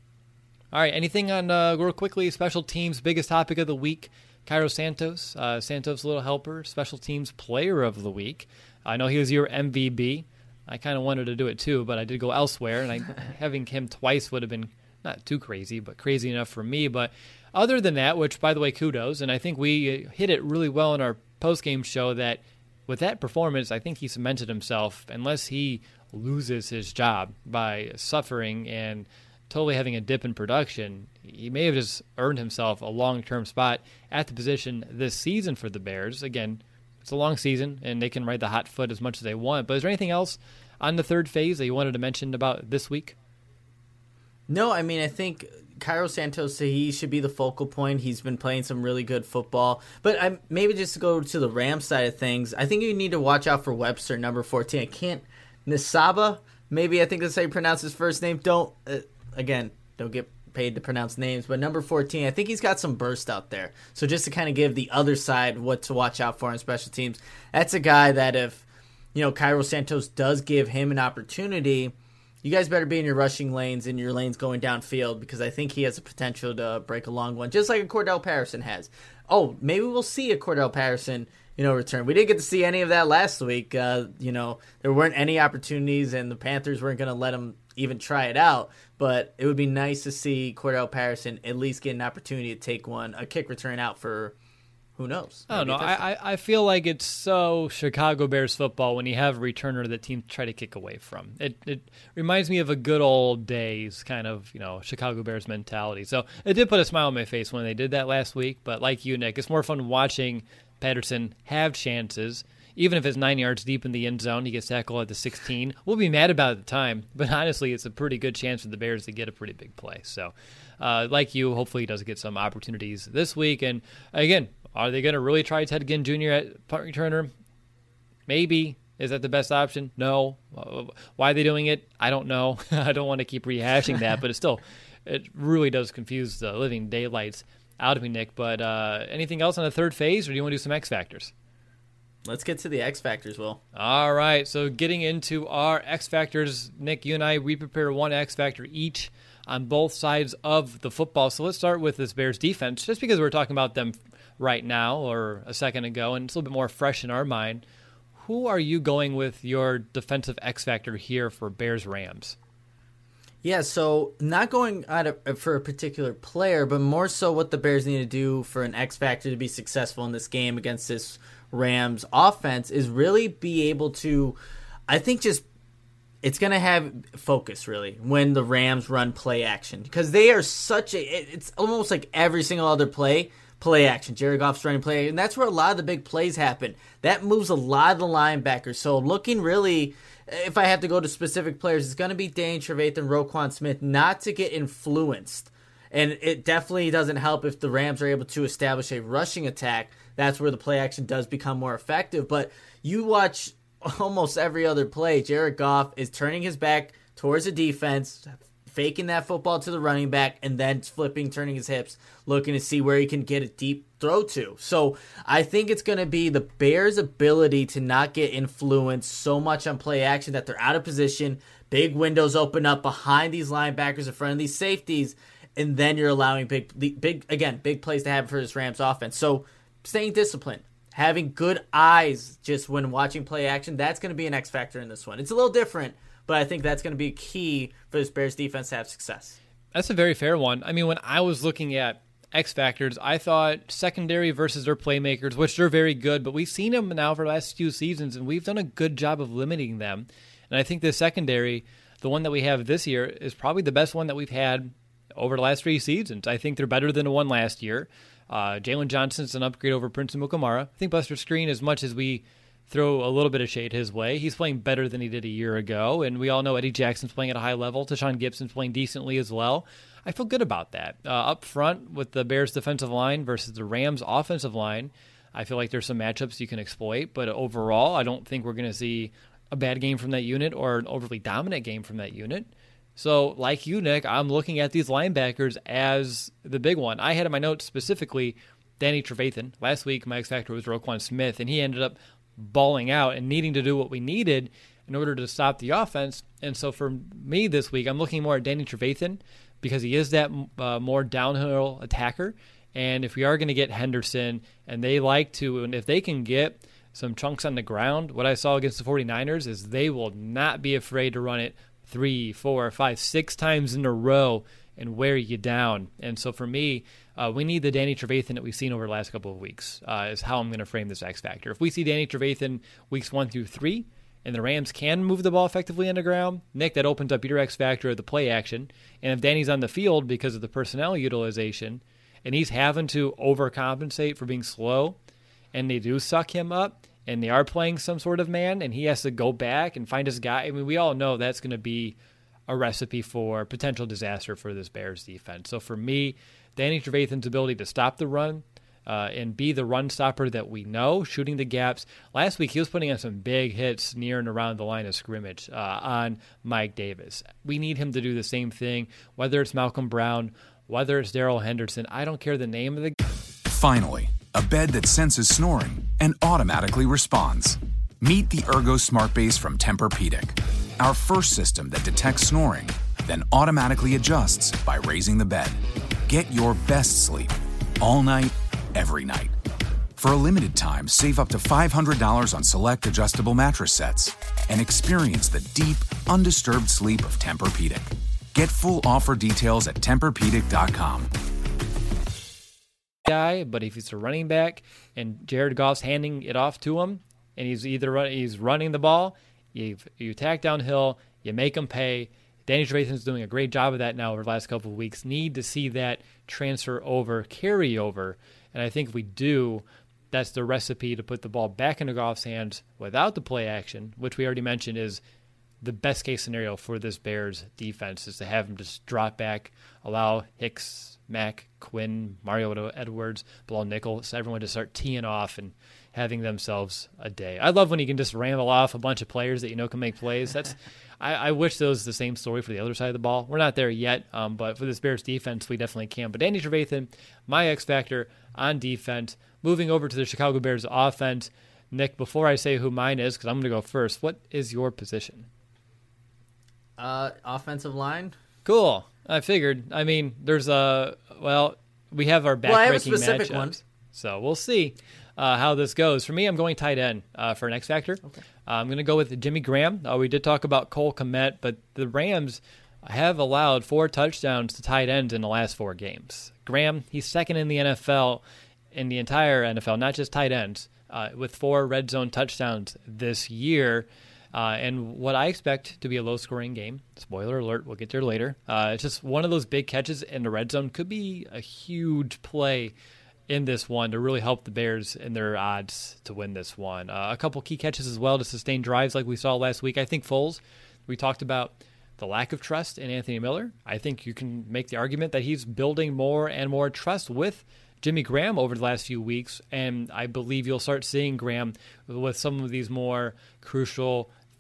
All right, anything on, real quickly, special teams, biggest topic of the week, Cairo Santos, Santos' little helper, special teams player of the week. I know he was your MVB. I kind of wanted to do it too, but I did go elsewhere, and having him twice would have been not too crazy, but crazy enough for me. But other than that, which, by the way, kudos, and I think we hit it really well in our post-game show that with that performance, I think he cemented himself, unless he loses his job by suffering and totally having a dip in production. He may have just earned himself a long-term spot at the position this season for the Bears. Again, it's a long season, and they can ride the hot foot as much as they want. But is there anything else on the third phase that you wanted to mention about this week? No, I mean, I think Cairo Santos, he should be the focal point. He's been playing some really good football. But maybe just to go to the Rams side of things, I think you need to watch out for Webster, number 14. Nisaba, maybe I think that's how you pronounce his first name. Don't get paid to pronounce names, but number 14, I think he's got some burst out there. So just to kind of give the other side what to watch out for on special teams, that's a guy that if, Cairo Santos does give him an opportunity, you guys better be in your rushing lanes and your lanes going downfield, because I think he has the potential to break a long one, just like a Cordell Patterson has. Oh, maybe we'll see a Cordell Patterson, return. We didn't get to see any of that last week. There weren't any opportunities, and the Panthers weren't going to let him even try it out. But it would be nice to see Cordell Patterson at least get an opportunity to take a kick return out for, who knows? I don't know. I feel like it's so Chicago Bears football when you have a returner that teams try to kick away from. It reminds me of a good old days kind of, Chicago Bears mentality. So it did put a smile on my face when they did that last week. But like you, Nick, it's more fun watching Patterson have chances. Even if it's 9 yards deep in the end zone, he gets tackled at the 16. We'll be mad about it at the time, but honestly, it's a pretty good chance for the Bears to get a pretty big play. So, like you, hopefully he does get some opportunities this week. And again, are they going to really try Ted Ginn Jr. at punt returner? Maybe. Is that the best option? No. Why are they doing it? I don't know. I don't want to keep rehashing that, but it really does confuse the living daylights out of me, Nick. But anything else on the third phase, or do you want to do some X Factors? Let's get to the X Factors, Will. All right, so getting into our X Factors, Nick, you and I, we prepare one X Factor each on both sides of the football. So let's start with this Bears defense, just because we're talking about them right now or a second ago, and it's a little bit more fresh in our mind. Who are you going with your defensive X Factor here for Bears-Rams? Yeah, so not going for a particular player, but more so what the Bears need to do for an X Factor to be successful in this game against this Rams offense is really be able to, I think it's going to have focus really when the Rams run play action, because they are it's almost like every single other play action. Jared Goff's running play, and that's where a lot of the big plays happen. That moves a lot of the linebackers. So looking really, if I have to go to specific players, it's going to be Dane Trevathan, Roquan Smith, not to get influenced. And it definitely doesn't help if the Rams are able to establish a rushing attack. That's where the play action does become more effective. But you watch almost every other play, Jared Goff is turning his back towards the defense, faking that football to the running back and then flipping, turning his hips, looking to see where he can get a deep throw to. So I think it's going to be the Bears' ability to not get influenced so much on play action that they're out of position, big windows open up behind these linebackers in front of these safeties, and then you're allowing big plays to happen for this Rams offense. So staying disciplined, having good eyes just when watching play action, that's going to be an X factor in this one. It's a little different, but I think that's going to be key for this Bears defense to have success. That's a very fair one. I mean, when I was looking at X factors, I thought secondary versus their playmakers, which they're very good, but we've seen them now for the last few seasons, and we've done a good job of limiting them. And I think the secondary, the one that we have this year, is probably the best one that we've had over the last 3 seasons. I think they're better than the one last year. Jalen Johnson's an upgrade over Prince Amukamara. I think Buster Skrine, as much as we throw a little bit of shade his way, he's playing better than he did a year ago, and we all know Eddie Jackson's playing at a high level. Tashawn Gibson's playing decently as well. I feel good about that. Up front with the Bears defensive line versus the Rams offensive line, I feel like there's some matchups you can exploit, but overall, I don't think we're going to see a bad game from that unit or an overly dominant game from that unit. So, like you, Nick, I'm looking at these linebackers as the big one. I had in my notes specifically Danny Trevathan. Last week, my X factor was Roquan Smith, and he ended up balling out and needing to do what we needed in order to stop the offense. And so for me this week, I'm looking more at Danny Trevathan because he is that more downhill attacker. And if we are going to get Henderson, and they like to, and if they can get some chunks on the ground, what I saw against the 49ers is they will not be afraid to run it 3, 4, 5, 6 times in a row and wear you down. And so for me, we need the Danny Trevathan that we've seen over the last couple of weeks is how I'm going to frame this X factor. If we see Danny Trevathan weeks 1 through 3, and the Rams can move the ball effectively on the ground, Nick, that opens up your X factor of the play action. And if Danny's on the field because of the personnel utilization, and he's having to overcompensate for being slow, and they do suck him up, and they are playing some sort of man, and he has to go back and find his guy, I mean, we all know that's going to be a recipe for potential disaster for this Bears defense. So for me, Danny Trevathan's ability to stop the run and be the run stopper that we know, shooting the gaps. Last week, he was putting on some big hits near and around the line of scrimmage on Mike Davis. We need him to do the same thing, whether it's Malcolm Brown, whether it's Darrell Henderson. I don't care the name of the guy. Finally, a bed that senses snoring and automatically responds. Meet the Ergo Smart Base from Tempur-Pedic, our first system that detects snoring, then automatically adjusts by raising the bed. Get your best sleep all night, every night. For a limited time, save up to $500 on select adjustable mattress sets and experience the deep, undisturbed sleep of Tempur-Pedic. Get full offer details at TempurPedic.com. Guy, but if he's a running back and Jared Goff's handing it off to him, and he's running the ball, you attack downhill, you make him pay. Danny Trevathan's doing a great job of that now over the last couple of weeks. Need to see that carry over, and I think if we do, that's the recipe to put the ball back into Goff's hands without the play action, which we already mentioned is the best case scenario for this Bears defense, is to have him just drop back, allow Hicks, Mack, Quinn, Mario Edwards, Bilal Nichols, everyone to start teeing off and having themselves a day. I love when you can just ramble off a bunch of players that you know can make plays. I wish there was the same story for the other side of the ball. We're not there yet, but for this Bears defense, we definitely can. But Danny Trevathan, my X factor on defense. Moving over to the Chicago Bears offense, Nick, before I say who mine is, because I'm going to go first, what is your position? Offensive line. Cool. I figured. I mean, there's we have our backbreaking I have a specific matchups, one. so we'll see how this goes. For me, I'm going tight end for an X factor. Okay. I'm going to go with Jimmy Graham. We did talk about Cole Kmet, but the Rams have allowed 4 touchdowns to tight ends in the last 4 games. Graham, he's second in the NFL, in the entire NFL, not just tight ends, with 4 red zone touchdowns this year. And what I expect to be a low-scoring game, spoiler alert, we'll get there later. It's just one of those big catches in the red zone could be a huge play in this one to really help the Bears in their odds to win this one. A couple key catches as well to sustain drives like we saw last week. I think Foles, we talked about the lack of trust in Anthony Miller. I think you can make the argument that he's building more and more trust with Jimmy Graham over the last few weeks, and I believe you'll start seeing Graham with some of these more crucial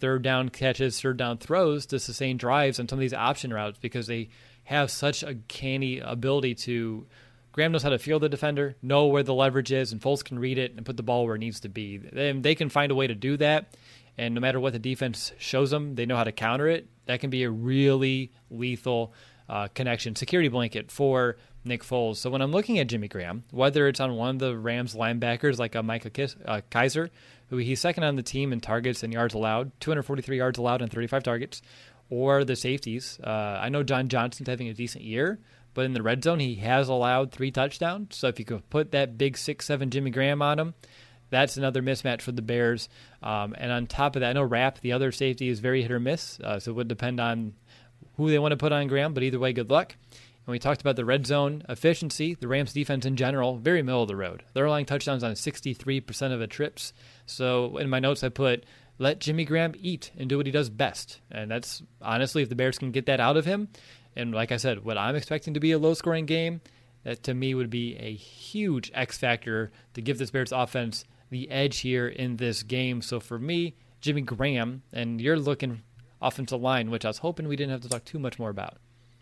third down catches, third down throws to sustain drives on some of these option routes because they have such a canny ability to. Graham knows how to field the defender, know where the leverage is, and Foles can read it and put the ball where it needs to be. They can find a way to do that, and no matter what the defense shows them, they know how to counter it. That can be a really lethal connection, security blanket for Nick Foles. So when I'm looking at Jimmy Graham, whether it's on one of the Rams linebackers like a Micah Kaiser, who he's second on the team in targets and yards allowed, 243 yards allowed on 35 targets, or the safeties. I know John Johnson's having a decent year, but in the red zone, he has allowed 3 touchdowns. So if you could put that big 6'7" Jimmy Graham on him, that's another mismatch for the Bears. And on top of that, I know Rapp, the other safety, is very hit or miss. So it would depend on who they want to put on Graham. But either way, good luck. And we talked about the red zone efficiency. The Rams defense in general, very middle of the road. They're allowing touchdowns on 63% of the trips. So in my notes, I put, let Jimmy Graham eat and do what he does best. And that's honestly, if the Bears can get that out of him, and like I said, what I'm expecting to be a low-scoring game, that to me would be a huge X factor to give this Bears offense the edge here in this game. So for me, Jimmy Graham, and you're looking offensive line, which I was hoping we didn't have to talk too much more about.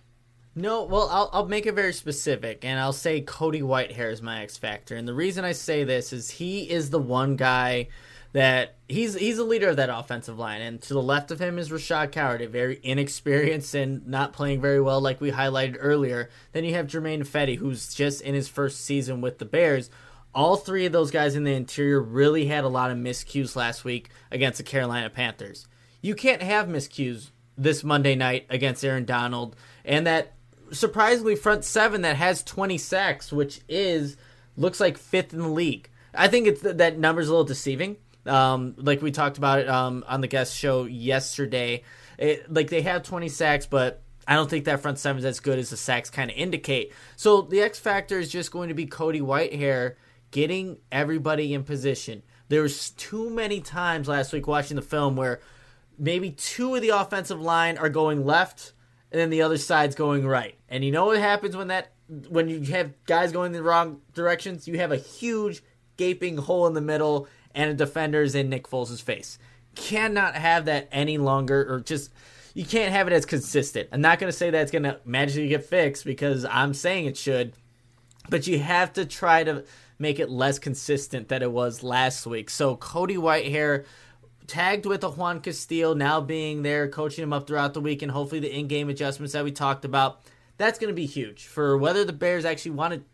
No, well, I'll make it very specific, and I'll say Cody Whitehair is my X factor. And the reason I say this is he is the one guy that he's a leader of that offensive line, and to the left of him is Rashad Coward, a very inexperienced and not playing very well like we highlighted earlier. Then you have Jermaine Fetty, who's just in his first season with the Bears. All three of those guys in the interior really had a lot of miscues last week against the Carolina Panthers. You can't have miscues this Monday night against Aaron Donald, and that surprisingly front seven that has 20 sacks, which looks like 5th in the league. I think it's that number's a little deceiving. Like we talked about it on the guest show yesterday. They have 20 sacks, but I don't think that front seven is as good as the sacks kind of indicate. So the X factor is just going to be Cody Whitehair getting everybody in position. There was too many times last week watching the film where maybe 2 of the offensive line are going left and then the other side's going right. And you know what happens when you have guys going the wrong directions? You have a huge gaping hole in the middle and a defender's in Nick Foles' face. Cannot have that any longer, or just, you can't have it as consistent. I'm not going to say that it's going to magically get fixed because I'm saying it should, but you have to try to make it less consistent than it was last week. So Cody Whitehair, tagged with a Juan Castillo now being there, coaching him up throughout the week, and hopefully the in-game adjustments that we talked about, that's going to be huge for whether the Bears actually want to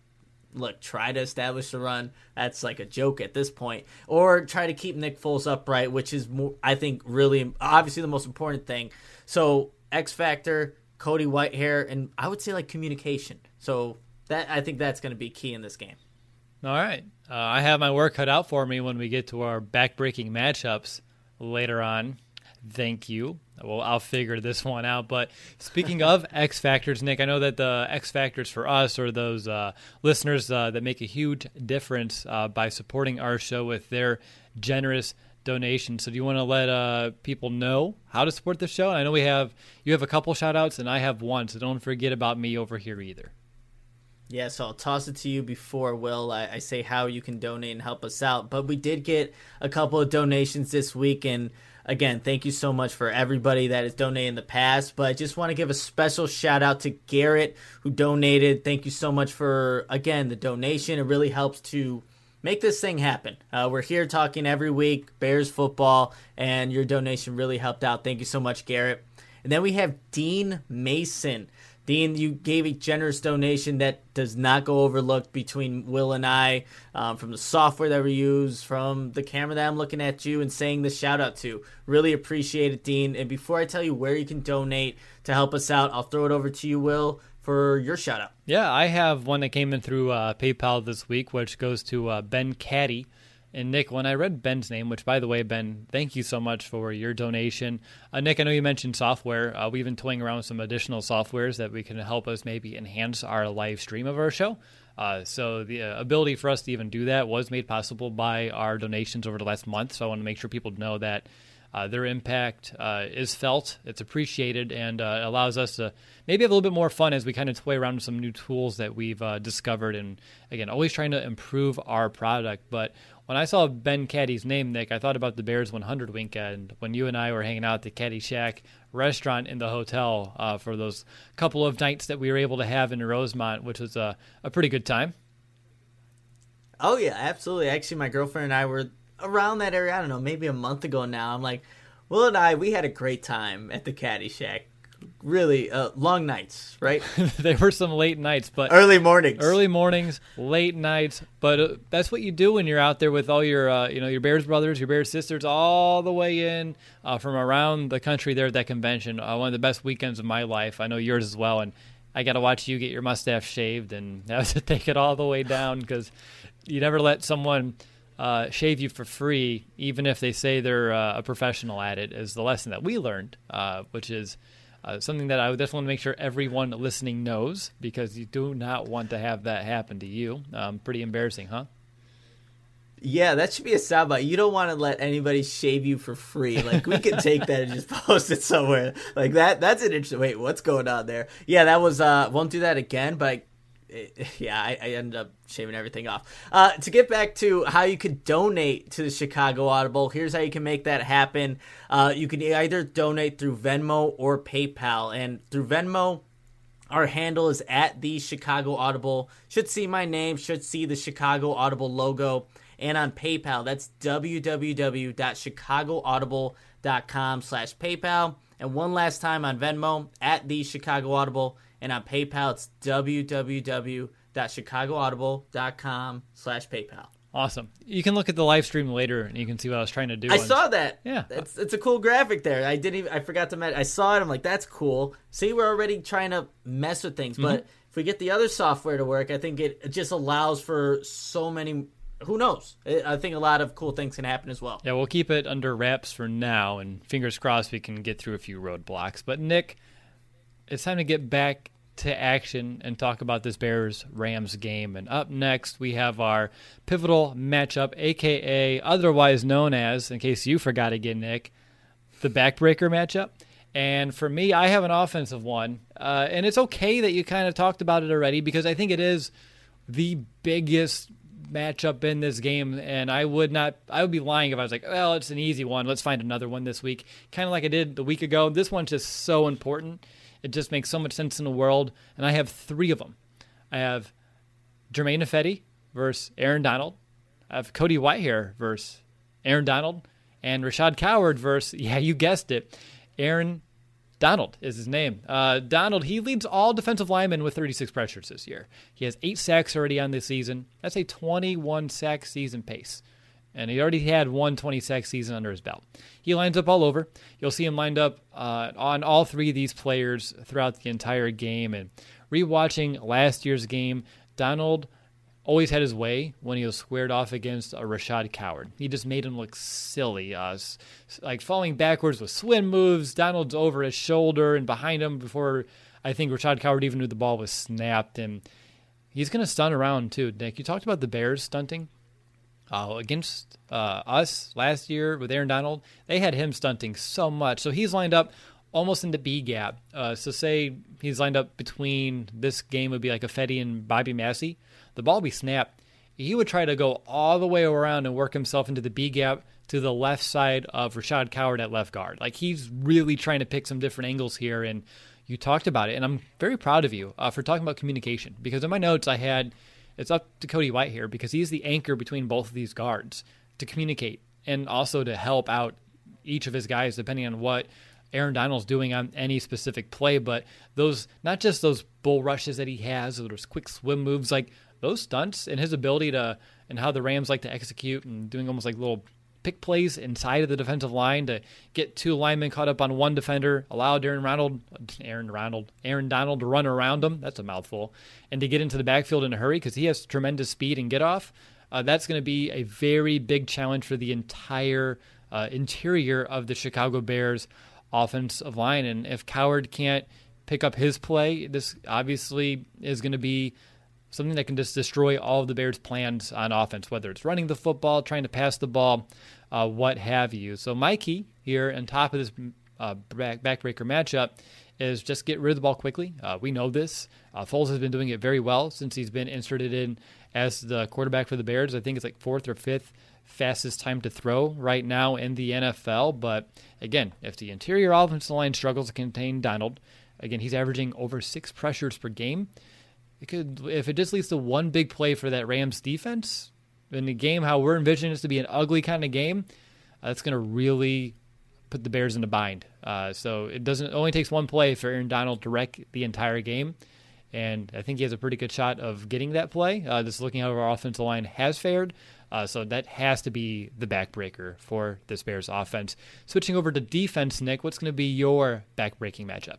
try to establish the run. That's like a joke at this point. Or try to keep Nick Foles upright, which is, more, I think, really, obviously the most important thing. So, X Factor, Cody Whitehair, and I would say, communication. So, I think that's going to be key in this game. All right. I have my work cut out for me when we get to our back-breaking matchups later on. Thank you. Well, I'll figure this one out. But speaking of X Factors, Nick, I know that the X Factors for us are those listeners that make a huge difference by supporting our show with their generous donations. So do you want to let people know how to support the show? I know you have a couple shout-outs, and I have one, so don't forget about me over here either. Yeah, so I'll toss it to you before, Will. I say how you can donate and help us out. But we did get a couple of donations this week, and again, thank you so much for everybody that has donated in the past. But I just want to give a special shout out to Garrett, who donated. Thank you so much for, again, the donation. It really helps to make this thing happen. We're here talking every week, Bears football, and your donation really helped out. Thank you so much, Garrett. And then we have Dean Mason. Dean, you gave a generous donation that does not go overlooked between Will and I, from the software that we use, from the camera that I'm looking at you and saying the shout out to. Really appreciate it, Dean. And before I tell you where you can donate to help us out, I'll throw it over to you, Will, for your shout out. Yeah, I have one that came in through PayPal this week, which goes to Ben Caddy. And Nick, when I read Ben's name, which, by the way, Ben, thank you so much for your donation. Nick, I know you mentioned software. We've been toying around with some additional softwares that we can help us maybe enhance our live stream of our show. So the ability for us to even do that was made possible by our donations over the last month. So I want to make sure people know that Their impact is felt, it's appreciated, and allows us to maybe have a little bit more fun as we kind of toy around with some new tools that we've discovered. And again, always trying to improve our product. But when I saw Ben Caddy's name, Nick, I thought about the Bears 100 weekend when you and I were hanging out at the Caddy Shack restaurant in the hotel for those couple of nights that we were able to have in Rosemont, which was a pretty good time. Oh, yeah, absolutely. Actually, my girlfriend and I were around that area, I don't know, maybe a month ago now. I'm like, Will and we had a great time at the Caddy Shack. Really, long nights, right? They were some late nights, but early mornings, late nights. But that's what you do when you're out there with all your, your Bears brothers, your Bears sisters, all the way in from around the country there at that convention. One of the best weekends of my life. I know yours as well. And I got to watch you get your mustache shaved and have to take it all the way down because you never let someone shave you for free, even if they say they're a professional at it, is the lesson that we learned, which is something that I would definitely want to make sure everyone listening knows, because you do not want to have that happen to you. Pretty embarrassing, huh? Yeah, that should be a soundbite. You don't want to let anybody shave you for free. Like, we can take that and just post it somewhere. Like, that's an interesting... Wait, what's going on there? Yeah, that was... won't do that again, but... I ended up shaving everything off. To get back to how you could donate to the Chicago Audible, here's how you can make that happen. You can either donate through Venmo or PayPal. And through Venmo, our handle is at the Chicago Audible. Should see my name, should see the Chicago Audible logo. And on PayPal, that's www.chicagoaudible.com/PayPal. And one last time on Venmo, at the Chicago Audible. And on PayPal, it's www.chicagoaudible.com/PayPal. Awesome. You can look at the live stream later, and you can see what I was trying to do. I saw that. Yeah, it's a cool graphic there. I forgot to mention. I saw it. I'm like, that's cool. See, we're already trying to mess with things. But if we get the other software to work, I think it just allows for so many. Who knows? I think a lot of cool things can happen as well. Yeah, we'll keep it under wraps for now, and fingers crossed we can get through a few roadblocks. But Nick, it's time to get back to action and talk about this Bears-Rams game. And up next, we have our pivotal matchup, a.k.a. otherwise known as, in case you forgot again, Nick, the backbreaker matchup. And for me, I have an offensive one. And it's okay that you kind of talked about it already, because I think it is the biggest matchup in this game. And I would be lying if I was like, well, it's an easy one, let's find another one this week. Kind of like I did the week ago. This one's just so important. It just makes so much sense in the world. And I have three of them. I have Germain Ifedi versus Aaron Donald. I have Cody Whitehair versus Aaron Donald. And Rashad Coward versus, yeah, you guessed it, Aaron Donald is his name. Donald, he leads all defensive linemen with 36 pressures this year. He has 8 sacks already on this season. That's a 21 sack season pace. And he already had one 20-sack season under his belt. He lines up all over. You'll see him lined up on all three of these players throughout the entire game. And rewatching last year's game, Donald always had his way when he was squared off against a Rashad Coward. He just made him look silly, like falling backwards with swim moves. Donald's over his shoulder and behind him before I think Rashad Coward even knew the ball was snapped. And he's going to stunt around too. Nick, you talked about the Bears stunting. Against us last year with Aaron Donald, they had him stunting so much. So he's lined up almost in the B gap. So say he's lined up between, this game would be like Ifedi and Bobby Massey. The ball would be snapped. He would try to go all the way around and work himself into the B gap to the left side of Rashad Coward at left guard. Like, he's really trying to pick some different angles here. And you talked about it. And I'm very proud of you for talking about communication, because in my notes I had, it's up to Cody Whitehair, because he's the anchor between both of these guards to communicate and also to help out each of his guys depending on what Aaron Donald's doing on any specific play. But those, not just those bull rushes that he has, or those quick swim moves, like those stunts and his ability to, and how the Rams like to execute and doing almost like little pick plays inside of the defensive line to get 2 linemen caught up on one defender, allow Aaron Donald to run around him. That's a mouthful. And to get into the backfield in a hurry, because he has tremendous speed and get off. That's going to be a very big challenge for the entire interior of the Chicago Bears offensive line. And if Coward can't pick up his play, this obviously is going to be something that can just destroy all of the Bears' plans on offense, whether it's running the football, trying to pass the ball, what have you. So my key here on top of this backbreaker matchup is just get rid of the ball quickly. We know this. Foles has been doing it very well since he's been inserted in as the quarterback for the Bears. I think it's like 4th or 5th fastest time to throw right now in the NFL. But again, if the interior offensive line struggles to contain Donald, again, he's averaging over 6 pressures per game. If it just leads to one big play for that Rams defense in the game, how we're envisioning this to be an ugly kind of game, that's going to really put the Bears in a bind. So it only takes one play for Aaron Donald to wreck the entire game. And I think he has a pretty good shot of getting that play. Just looking how our offensive line has fared. So that has to be the backbreaker for this Bears offense. Switching over to defense, Nick, what's going to be your backbreaking matchup?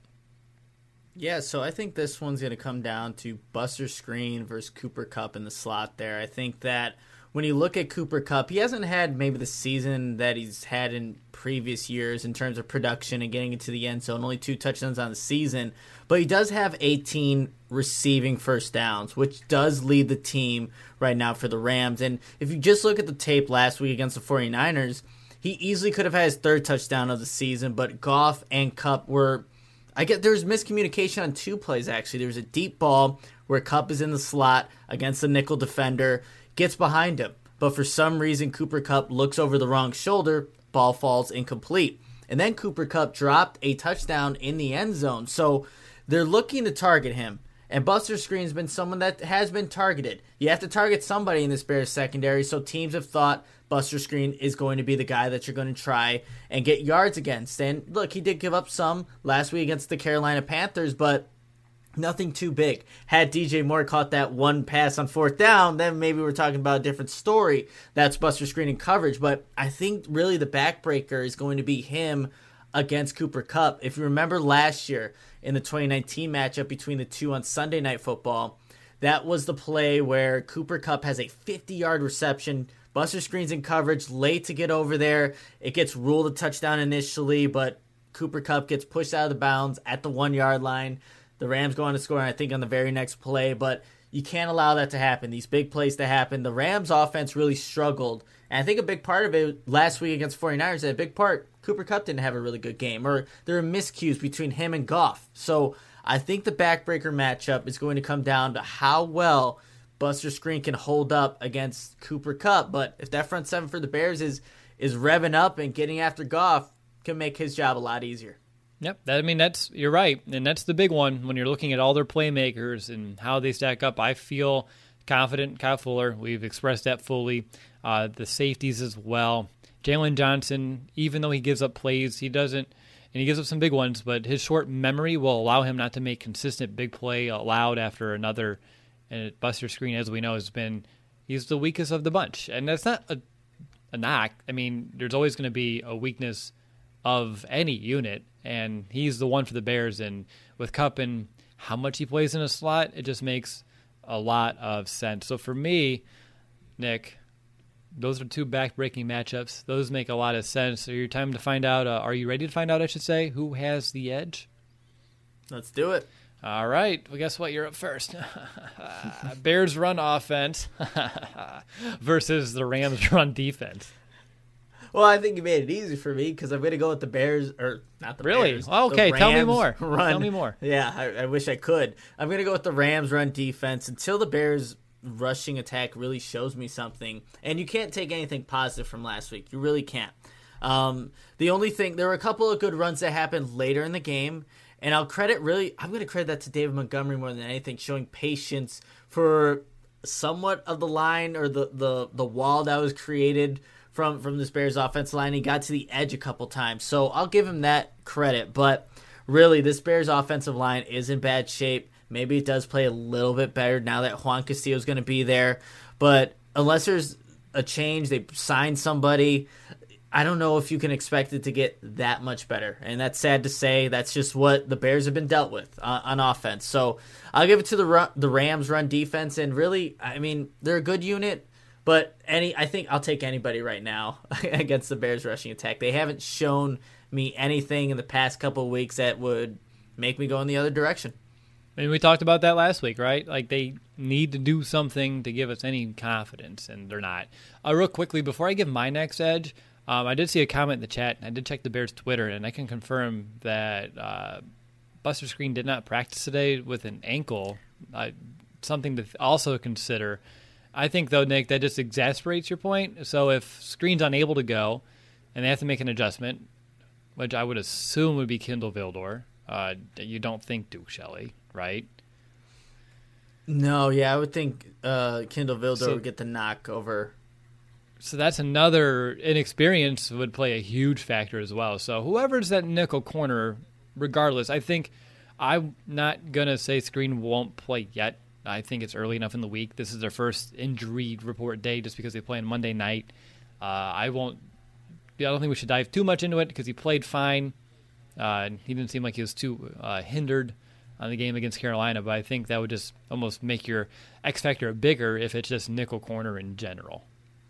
Yeah, so I think this one's going to come down to Buster Skrine versus Cooper Kupp in the slot there. I think that when you look at Cooper Kupp, he hasn't had maybe the season that he's had in previous years in terms of production and getting into the end zone, only 2 touchdowns on the season. But he does have 18 receiving first downs, which does lead the team right now for the Rams. And if you just look at the tape last week against the 49ers, he easily could have had his 3rd touchdown of the season, but Goff and Kupp were... I get there was miscommunication on 2 plays, actually. There was a deep ball where Kupp is in the slot against the nickel defender, gets behind him. But for some reason, Cooper Kupp looks over the wrong shoulder, ball falls incomplete. And then Cooper Kupp dropped a touchdown in the end zone. So they're looking to target him. And Buster Skrine's been someone that has been targeted. You have to target somebody in this Bears secondary, so teams have thought Buster Skrine is going to be the guy that you're going to try and get yards against. And look, he did give up some last week against the Carolina Panthers, but nothing too big. Had DJ Moore caught that one pass on 4th down, then maybe we're talking about a different story. That's Buster Skrine in coverage. But I think really the backbreaker is going to be him against Cooper Kupp. If you remember last year in the 2019 matchup between the two on Sunday Night Football, that was the play where Cooper Kupp has a 50-yard reception. Buster Skrine's in coverage, late to get over there. It gets ruled a touchdown initially, but Cooper Kupp gets pushed out of the bounds at the 1-yard line. The Rams go on to score, I think, on the very next play, but you can't allow that to happen. These big plays to happen. The Rams offense really struggled, and I think a big part of it last week against 49ers, a big part, Cooper Kupp didn't have a really good game, or there are miscues between him and Goff. So I think the backbreaker matchup is going to come down to how well Buster Skrine can hold up against Cooper Kupp. But if that front seven for the Bears is revving up and getting after Goff, can make his job a lot easier. Yep, you're right, and that's the big one when you're looking at all their playmakers and how they stack up. I feel confident, Kyle Fuller. We've expressed that fully. The safeties as well. Jalen Johnson, even though he gives up plays, he doesn't, and he gives up some big ones, but his short memory will allow him not to make consistent big play allowed after another. And Buster Skrine, as we know, he's the weakest of the bunch, and that's not a knock. I mean, there's always going to be a weakness of any unit, and he's the one for the Bears. And with Kupp and how much he plays in a slot, it just makes a lot of sense. So for me, Nick, those are 2 back-breaking matchups. Those make a lot of sense. So your time to find out, are you ready to find out, I should say, who has the edge? Let's do it. All right. Well, guess what? You're up first. Bears run offense versus the Rams run defense. Well, I think you made it easy for me because I'm going to go with the Bears, or not the Bears. Really? Okay, tell me more. Run. Tell me more. Yeah, I wish I could. I'm going to go with the Rams run defense until the Bears rushing attack really shows me something. And you can't take anything positive from last week. You really can't. The only thing, there were a couple of good runs that happened later in the game, and I'm going to credit that to David Montgomery more than anything, showing patience for somewhat of the line or the wall that was created from this Bears offensive line. He got to the edge a couple times, so I'll give him that credit. But really, this Bears offensive line is in bad shape. Maybe it does play a little bit better now that Juan Castillo is going to be there. But unless there's a change, they sign somebody, I don't know if you can expect it to get that much better. And that's sad to say. That's just what the Bears have been dealt with on offense. So I'll give it to the Rams run defense. And really, I mean, they're a good unit. But I think I'll take anybody right now against the Bears rushing attack. They haven't shown me anything in the past couple of weeks that would make me go in the other direction. I mean, we talked about that last week, right? Like, they need to do something to give us any confidence, and they're not. Real quickly, before I give my next edge, I did see a comment in the chat. I did check the Bears' Twitter, and I can confirm that Buster Skrine did not practice today with an ankle. Something to also consider. I think, though, Nick, that just exasperates your point. So if Skrine's unable to go and they have to make an adjustment, which I would assume would be Kindle Vildor, you don't think Duke Shelley, right? No, yeah, I would think Kindle Vildor would get the knock over. So that's another inexperience would play a huge factor as well. So whoever's that nickel corner, regardless, I think I'm not going to say Skrine won't play yet. I think it's early enough in the week. This is their first injury report day just because they play on Monday night. I don't think we should dive too much into it because he played fine. He didn't seem like he was too hindered on the game against Carolina, but I think that would just almost make your X factor bigger if it's just nickel corner in general.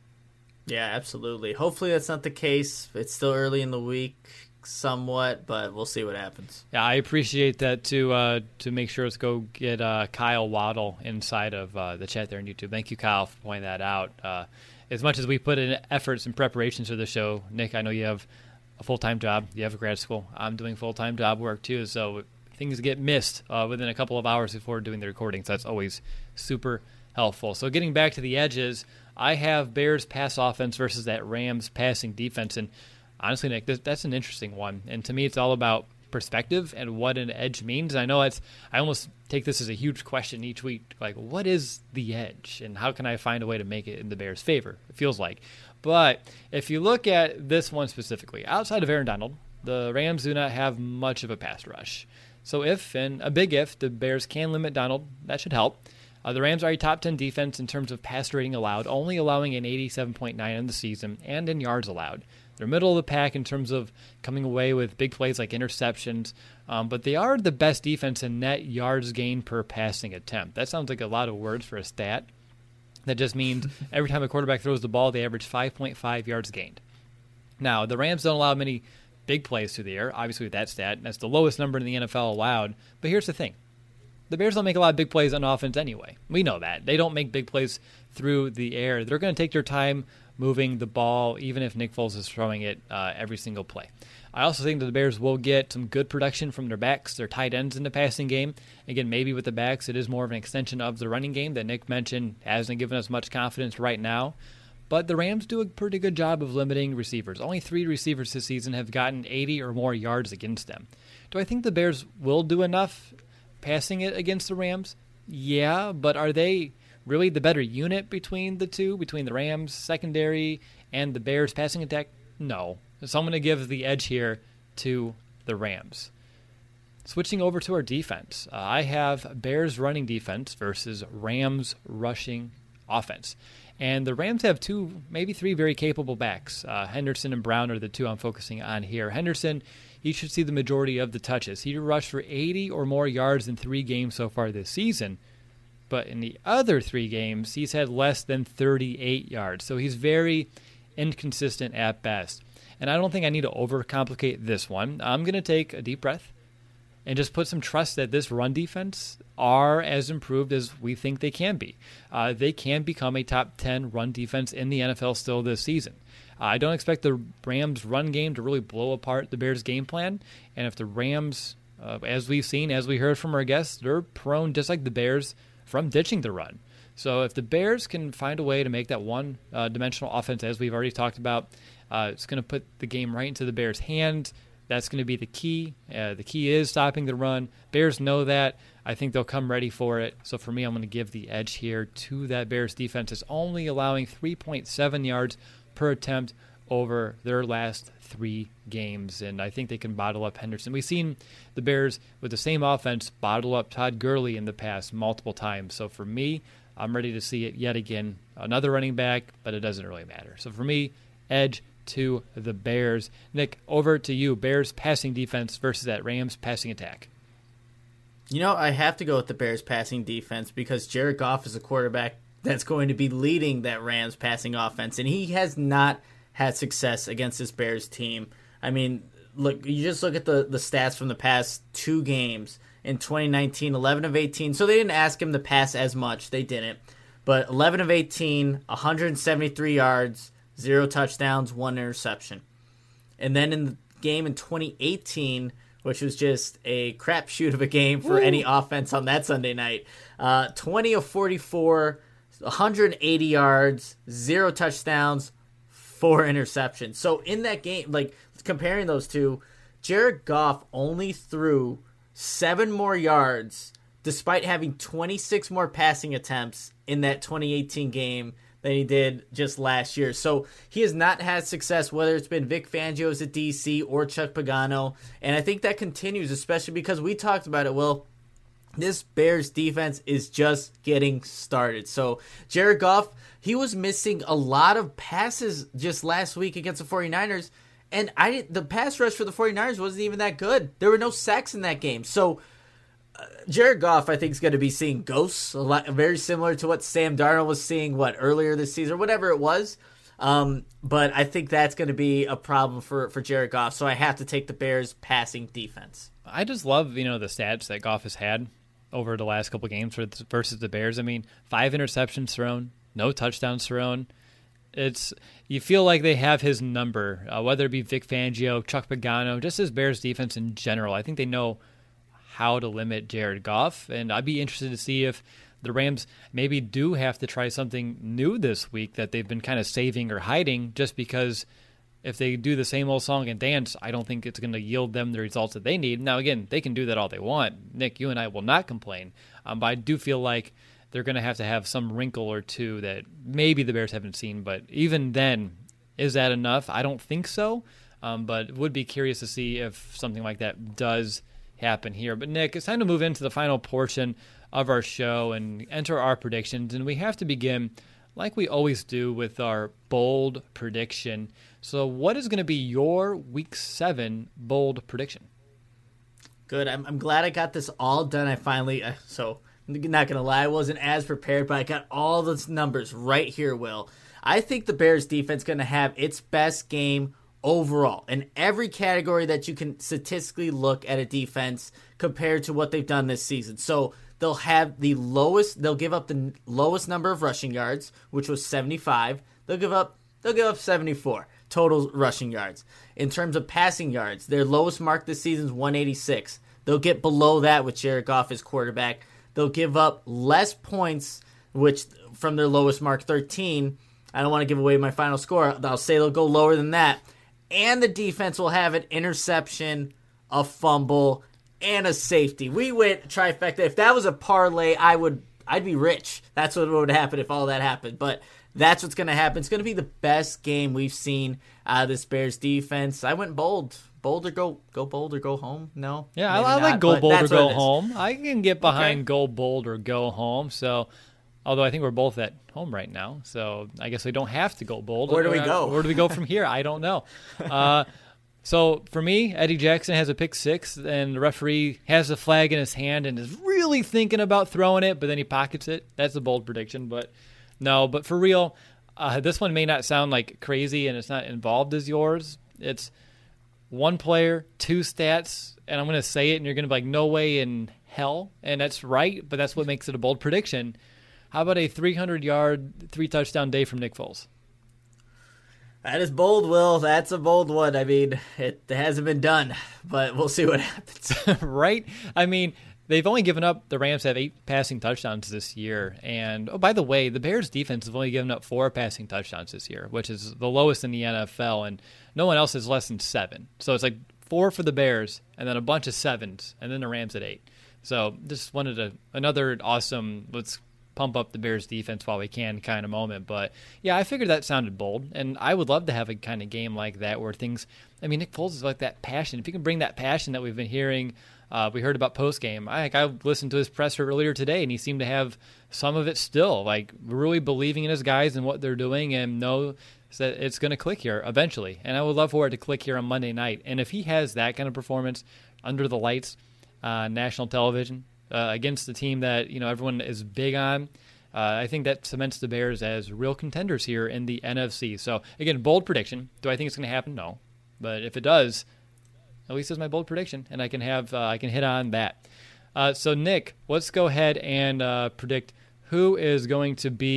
Yeah, absolutely. Hopefully that's not the case. It's still early in the week somewhat, but we'll see what happens. Yeah, I appreciate that to make sure let's go get Kyle Waddle inside of the chat there on YouTube. Thank you, Kyle, for pointing that out. As much as we put in efforts and preparations for the show, Nick, I know you have a full-time job. You have a grad school. I'm doing full-time job work too, so things get missed within a couple of hours before doing the recording, so that's always super helpful. So getting back to the edges, I have Bears pass offense versus that Rams passing defense, and honestly, Nick, that's an interesting one. And to me, it's all about perspective and what an edge means. I know I almost take this as a huge question each week, like what is the edge and how can I find a way to make it in the Bears' favor? It feels like. But if you look at this one specifically, outside of Aaron Donald, the Rams do not have much of a pass rush. So if, and a big if, the Bears can limit Donald, that should help. The Rams are a top 10 defense in terms of pass rating allowed, only allowing an 87.9 in the season, and in yards allowed. They're middle of the pack in terms of coming away with big plays like interceptions, but they are the best defense in net yards gained per passing attempt. That sounds like a lot of words for a stat. That just means every time a quarterback throws the ball, they average 5.5 yards gained. Now, the Rams don't allow many big plays through the air, obviously with that stat. That's the lowest number in the NFL allowed. But here's the thing. The Bears don't make a lot of big plays on offense anyway. We know that. They don't make big plays through the air. They're going to take their time moving the ball, even if Nick Foles is throwing it every single play. I also think that the Bears will get some good production from their backs, their tight ends in the passing game. Again, maybe with the backs, it is more of an extension of the running game that Nick mentioned hasn't given us much confidence right now. But the Rams do a pretty good job of limiting receivers. Only 3 receivers this season have gotten 80 or more yards against them. Do I think the Bears will do enough passing it against the Rams? Yeah, but are they really the better unit between the two, between the Rams secondary and the Bears passing attack? No. So I'm going to give the edge here to the Rams. Switching over to our defense, I have Bears running defense versus Rams rushing offense. And the Rams have 2, maybe 3 very capable backs. Henderson and Brown are the 2 I'm focusing on here. Henderson, he should see the majority of the touches. He rushed for 80 or more yards in 3 games so far this season. But in the other 3 games, he's had less than 38 yards. So he's very inconsistent at best. And I don't think I need to overcomplicate this one. I'm going to take a deep breath and just put some trust that this run defense are as improved as we think they can be. They can become a top 10 run defense in the NFL still this season. I don't expect the Rams' run game to really blow apart the Bears' game plan. And if the Rams, as we've seen, as we heard from our guests, they're prone, just like the Bears, from ditching the run. So if the Bears can find a way to make that one-dimensional offense, as we've already talked about, it's going to put the game right into the Bears' hands. That's going to be the key. The key is stopping the run. Bears know that. I think they'll come ready for it. So for me, I'm going to give the edge here to that Bears defense. It's only allowing 3.7 yards per attempt over their last 3 games. And I think they can bottle up Henderson. We've seen the Bears with the same offense bottle up Todd Gurley in the past multiple times. So for me, I'm ready to see it yet again. Another running back, but it doesn't really matter. So for me, edge to the Bears. Nick, over to you. Bears passing defense versus that Rams passing attack. You know, I have to go with the Bears passing defense because Jared Goff is a quarterback that's going to be leading that Rams passing offense, and he has not had success against this Bears team. I mean, look, you just look at the stats from the past 2 games. In 2019, 11 of 18. So they didn't ask him to pass as much. They didn't. But 11 of 18, 173 yards, 0 touchdowns, 1 interception. And then in the game in 2018, which was just a crapshoot of a game for any offense on that Sunday night, 20 of 44, 180 yards, 0 touchdowns, 4 interceptions. So in that game, like comparing those two, Jared Goff only threw 7 more yards despite having 26 more passing attempts in that 2018 game than he did just last year. So he has not had success, whether it's been Vic Fangio as a DC or Chuck Pagano. And I think that continues, especially because we talked about it. Well, this Bears defense is just getting started. So Jared Goff, he was missing a lot of passes just last week against the 49ers. And the pass rush for the 49ers wasn't even that good. There were no sacks in that game. So Jared Goff, I think, is going to be seeing ghosts, very similar to what Sam Darnold was seeing, earlier this season, or whatever it was. But I think that's going to be a problem for Jared Goff. So I have to take the Bears' passing defense. I just love, the stats that Goff has had over the last couple games versus the Bears. I mean, 5 interceptions thrown, no touchdowns thrown. You feel like they have his number, whether it be Vic Fangio, Chuck Pagano, just his Bears defense in general. I think they know how to limit Jared Goff, and I'd be interested to see if the Rams maybe do have to try something new this week that they've been kind of saving or hiding, just because if they do the same old song and dance, I don't think it's going to yield them the results that they need. Now, again, they can do that all they want. Nick, you and I will not complain, but I do feel like they're going to have some wrinkle or two that maybe the Bears haven't seen, but even then, is that enough? I don't think so, but would be curious to see if something like that does happen here. But Nick, it's time to move into the final portion of our show and enter our predictions, and we have to begin like we always do with our bold prediction. So what is going to be your Week 7 bold prediction? Good. I'm glad I got this all done. I finally, so I'm not going to lie, I wasn't as prepared, but I got all those numbers right here, Will. I think the Bears defense is going to have its best game overall in every category that you can statistically look at a defense compared to what they've done this season. So they'll give up the lowest number of rushing yards, which was 75. They'll give up 74 total rushing yards. In terms of passing yards, their lowest mark this season is 186. They'll get below that with Jared Goff as quarterback. They'll give up less points, which from their lowest mark, 13. I don't want to give away my final score. I'll say they'll go lower than that. And the defense will have an interception, a fumble, and a safety. We went trifecta. If that was a parlay, I'd be rich. That's what would happen if all that happened. But that's what's going to happen. It's going to be the best game we've seen out of this Bears defense. I went bold. Bold or go bold or go home? No? Yeah, I like go bold or go home. I can get behind go bold or go home. So, although I think we're both at home right now, so I guess we don't have to go bold. Where do we go? Where do we go from here? I don't know. So for me, Eddie Jackson has a pick 6, and the referee has the flag in his hand and is really thinking about throwing it, but then he pockets it. That's a bold prediction, but no. But for real, this one may not sound like crazy, and it's not involved as yours. It's one player, 2 stats, and I'm going to say it, and you're going to be like, no way in hell, and that's right, but that's what makes it a bold prediction. How about a 300-yard, 3-touchdown day from Nick Foles? That is bold, Will. That's a bold one. I mean, it hasn't been done, but we'll see what happens. Right? I mean, they've only given up, the Rams have 8 passing touchdowns this year. And, oh, by the way, the Bears defense have only given up 4 passing touchdowns this year, which is the lowest in the NFL, and no one else has less than 7. So it's like 4 for the Bears, and then a bunch of 7s, and then the Rams at 8. So just wanted another awesome, let's pump up the Bears defense while we can kind of moment. But yeah, I figured that sounded bold, and I would love to have a kind of game like that where things, I mean, Nick Foles is like that passion. If you can bring that passion that we've been hearing, we heard about post-game. I listened to his presser earlier today, and he seemed to have some of it still, like really believing in his guys and what they're doing, and know that it's going to click here eventually. And I would love for it to click here on Monday night. And if he has that kind of performance under the lights, national television, against the team that everyone is big on, I think that cements the Bears as real contenders here in the NFC. So again, bold prediction. Do I think it's going to happen? No, but if it does, at least it's my bold prediction, and I can hit on that. So Nick, let's go ahead and predict who is going to be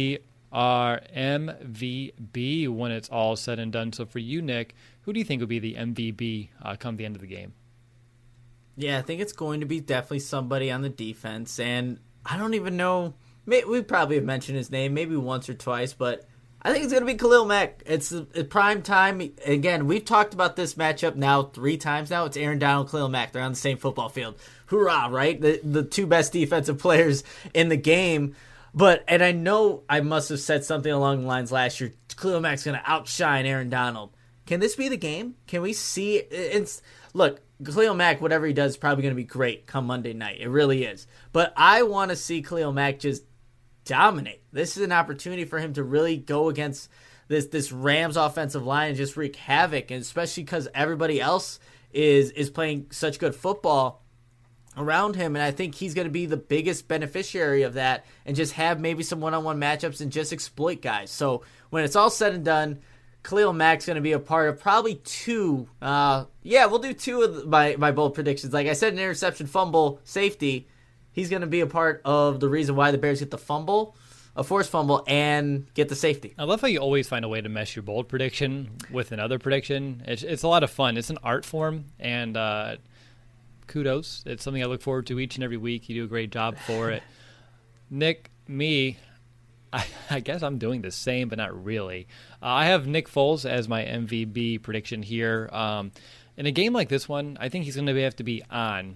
our MVP when it's all said and done. So for you, Nick, who do you think would be the MVP come the end of the game? Yeah, I think it's going to be definitely somebody on the defense, and I don't even know. We probably have mentioned his name maybe once or twice, but I think it's going to be Khalil Mack. It's prime time. Again, we've talked about this matchup now 3 times now. It's Aaron Donald, Khalil Mack. They're on the same football field. Hoorah, right? The 2 best defensive players in the game. And I know I must have said something along the lines last year, Khalil Mack's going to outshine Aaron Donald. Can this be the game? Can we see look, Khalil Mack, whatever he does, is probably going to be great come Monday night. It really is. But I want to see Khalil Mack just dominate. This is an opportunity for him to really go against this Rams offensive line and just wreak havoc, and especially because everybody else is playing such good football around him, and I think he's going to be the biggest beneficiary of that and just have maybe some one-on-one matchups and just exploit guys. So when it's all said and done, Khalil Mack's going to be a part of probably 2. We'll do 2 of my bold predictions. Like I said, an interception, fumble, safety. He's going to be a part of the reason why the Bears get the fumble, a forced fumble, and get the safety. I love how you always find a way to mesh your bold prediction with another prediction. It's a lot of fun. It's an art form, and kudos. It's something I look forward to each and every week. You do a great job for it. Nick, I guess I'm doing the same, but not really. I have Nick Foles as my MVP prediction here. In a game like this one, I think he's going to have to be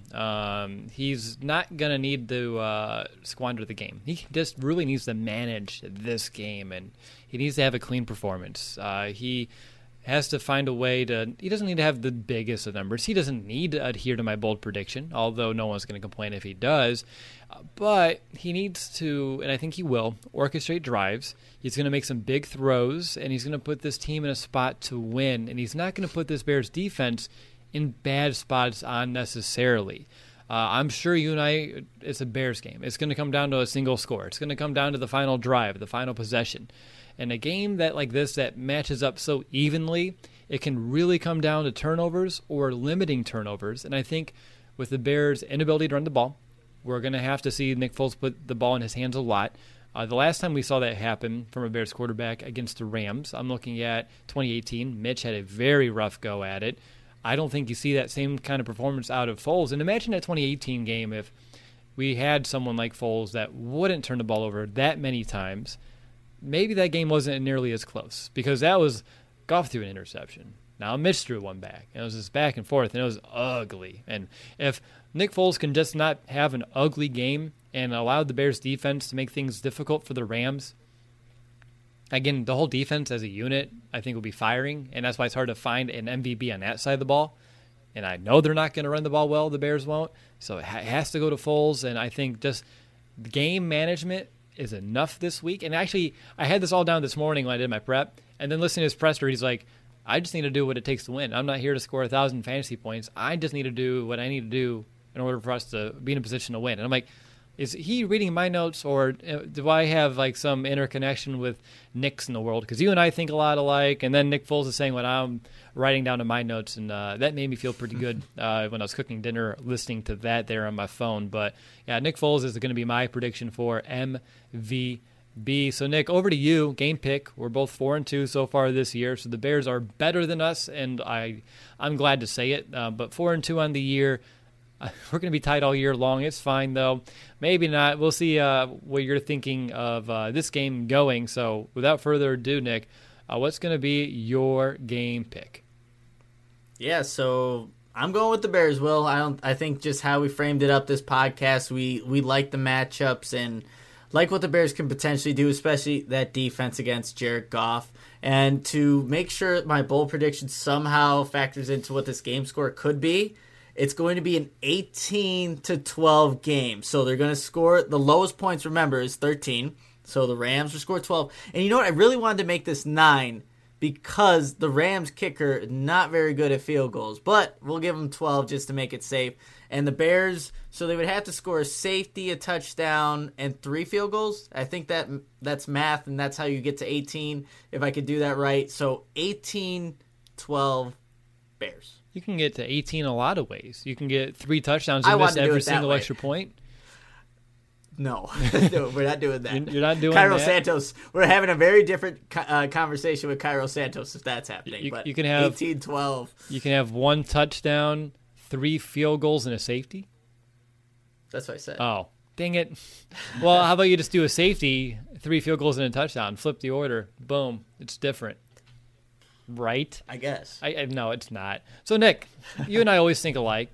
on. He's not going to need to squander the game. He just really needs to manage this game, and he needs to have a clean performance. He has to find a way to – he doesn't need to have the biggest of numbers. He doesn't need to adhere to my bold prediction, although no one's going to complain if he does. But he needs to, and I think he will, orchestrate drives. He's going to make some big throws, and he's going to put this team in a spot to win. And he's not going to put this Bears defense in bad spots unnecessarily. I'm sure you and I, it's a Bears game. It's going to come down to a single score. It's going to come down to the final drive, the final possession. And a game that like this that matches up so evenly, it can really come down to turnovers or limiting turnovers. And I think with the Bears' inability to run the ball, we're going to have to see Nick Foles put the ball in his hands a lot. The last time we saw that happen from a Bears quarterback against the Rams, I'm looking at 2018. Mitch had a very rough go at it. I don't think you see that same kind of performance out of Foles. And imagine that 2018 game if we had someone like Foles that wouldn't turn the ball over that many times. Maybe that game wasn't nearly as close because that was Goff threw an interception. Now Mitch threw one back. And it was just back and forth, and it was ugly. And if Nick Foles can just not have an ugly game and allow the Bears defense to make things difficult for the Rams, again, the whole defense as a unit, I think, will be firing, and that's why it's hard to find an MVP on that side of the ball. And I know they're not going to run the ball well, the Bears won't, so it has to go to Foles, and I think just game management is enough this week. And actually, I had this all down this morning when I did my prep, and then listening to his presser, he's like, I just need to do what it takes to win. I'm not here to score 1,000 fantasy points. I just need to do what I need to do in order for us to be in a position to win. And I'm like, is he reading my notes, or do I have like some interconnection with Nick's in the world? Because you and I think a lot alike, and then Nick Foles is saying what I'm writing down in my notes, and that made me feel pretty good when I was cooking dinner, listening to that there on my phone. But yeah, Nick Foles is going to be my prediction for MVP. So Nick, over to you. Game pick. We're both 4-2 so far this year, so the Bears are better than us, and I'm glad to say it. But 4-2 on the year. We're going to be tied all year long. It's fine, though. Maybe not. We'll see what you're thinking of this game going. So without further ado, Nick, what's going to be your game pick? Yeah, so I'm going with the Bears, Will. I think just how we framed it up this podcast, we like the matchups and like what the Bears can potentially do, especially that defense against Jared Goff. And to make sure my bold prediction somehow factors into what this game score could be, it's going to be an 18-12 game. So they're going to score, the lowest points, remember, is 13. So the Rams will score 12. And you know what? I really wanted to make this 9 because the Rams kicker is not very good at field goals. But we'll give them 12 just to make it safe. And the Bears, so they would have to score a safety, a touchdown, and 3 field goals. I think that's math, and that's how you get to 18, if I could do that right. So 18-12 Bears. You can get to 18 a lot of ways. You can get 3 touchdowns and miss every single extra point. No, no, we're not doing that. You're not doing Cairo that? Santos. We're having a very different conversation with Cairo Santos if that's happening. But You can have 18-12. You can have 1 touchdown, 3 field goals, and a safety. That's what I said. Oh, dang it. Well, how about you just do a safety, 3 field goals, and a touchdown? Flip the order. Boom. It's different. Right? I guess. I no, it's not. So, Nick, you and I always think alike.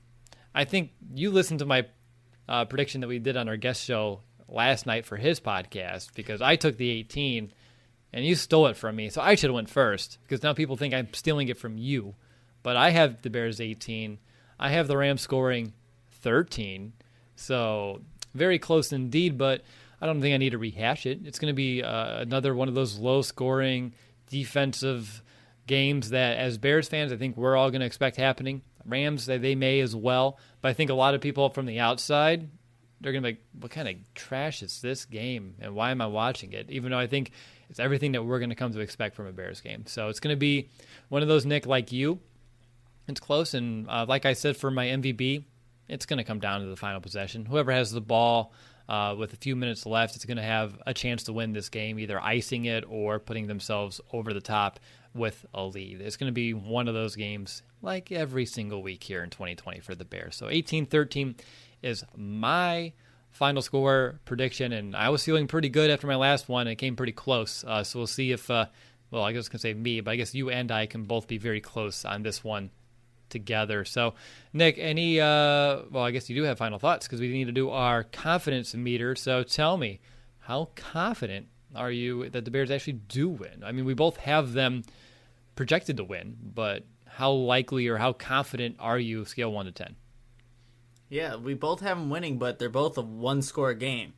I think you listened to my prediction that we did on our guest show last night for his podcast because I took the 18 and you stole it from me. So I should have went first because now people think I'm stealing it from you. But I have the Bears 18. I have the Rams scoring 13. So very close indeed, but I don't think I need to rehash it. It's going to be another one of those low-scoring defensive games that, as Bears fans, I think we're all going to expect happening. Rams, they may as well, but I think a lot of people from the outside, they're going to be like, what kind of trash is this game, and why am I watching it? Even though I think it's everything that we're going to come to expect from a Bears game. So it's going to be one of those, Nick, like you. It's close, and like I said for my MVP, it's going to come down to the final possession. Whoever has the ball with a few minutes left is going to have a chance to win this game, either icing it or putting themselves over the top with a lead. It's going to be one of those games like every single week here in 2020 for the Bears. So 18-13 is my final score prediction, and I was feeling pretty good after my last one. It came pretty close. So we'll see if, well, I was going to say me, but I guess you and I can both be very close on this one together. So, Nick, any, well, I guess you do have final thoughts because we need to do our confidence meter. So tell me, how confident are you that the Bears actually do win? I mean, we both have them projected to win, but how likely or how confident are you, scale 1 to 10? Yeah, we both have them winning, but they're both a one-score game.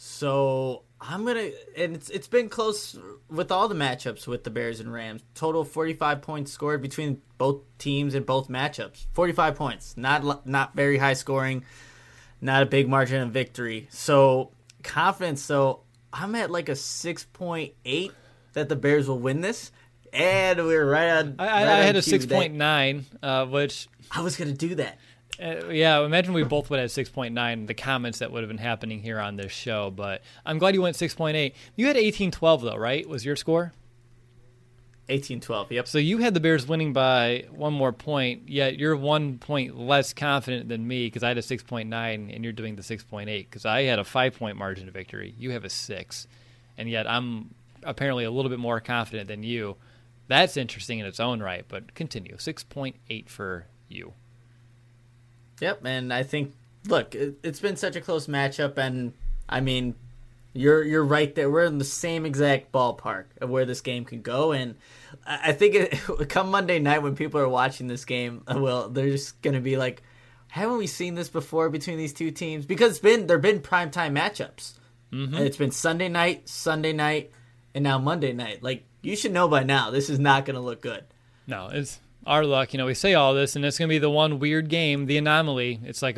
So I'm going to, and it's been close with all the matchups with the Bears and Rams. Total 45 points scored between both teams in both matchups. 45 points. Not very high scoring, not a big margin of victory. So confidence, so I'm at like a 6.8 that the Bears will win this. And we're right on. I had a 6.9, which I was going to do that. Yeah, imagine we both would have 6.9, the comments that would have been happening here on this show. But I'm glad you went 6.8. You had 18-12, though, right? Was your score? 18-12, yep. So you had the Bears winning by 1 more point, yet you're 1 point less confident than me because I had a 6.9 and you're doing the 6.8 because I had a 5-point margin of victory. You have a 6, and yet I'm apparently a little bit more confident than you. That's interesting in its own right, but continue. 6.8 for you. Yep, and I think, look, it's been such a close matchup, and I mean, you're right there. We're in the same exact ballpark of where this game can go, and I think come Monday night when people are watching this game, well, they're just going to be like, haven't we seen this before between these two teams? Because there have been primetime matchups. Mm-hmm. And it's been Sunday night, and now Monday night. Like, you should know by now, this is not going to look good. No, it's our luck. You know, we say all this, and it's going to be the one weird game, the anomaly. It's like a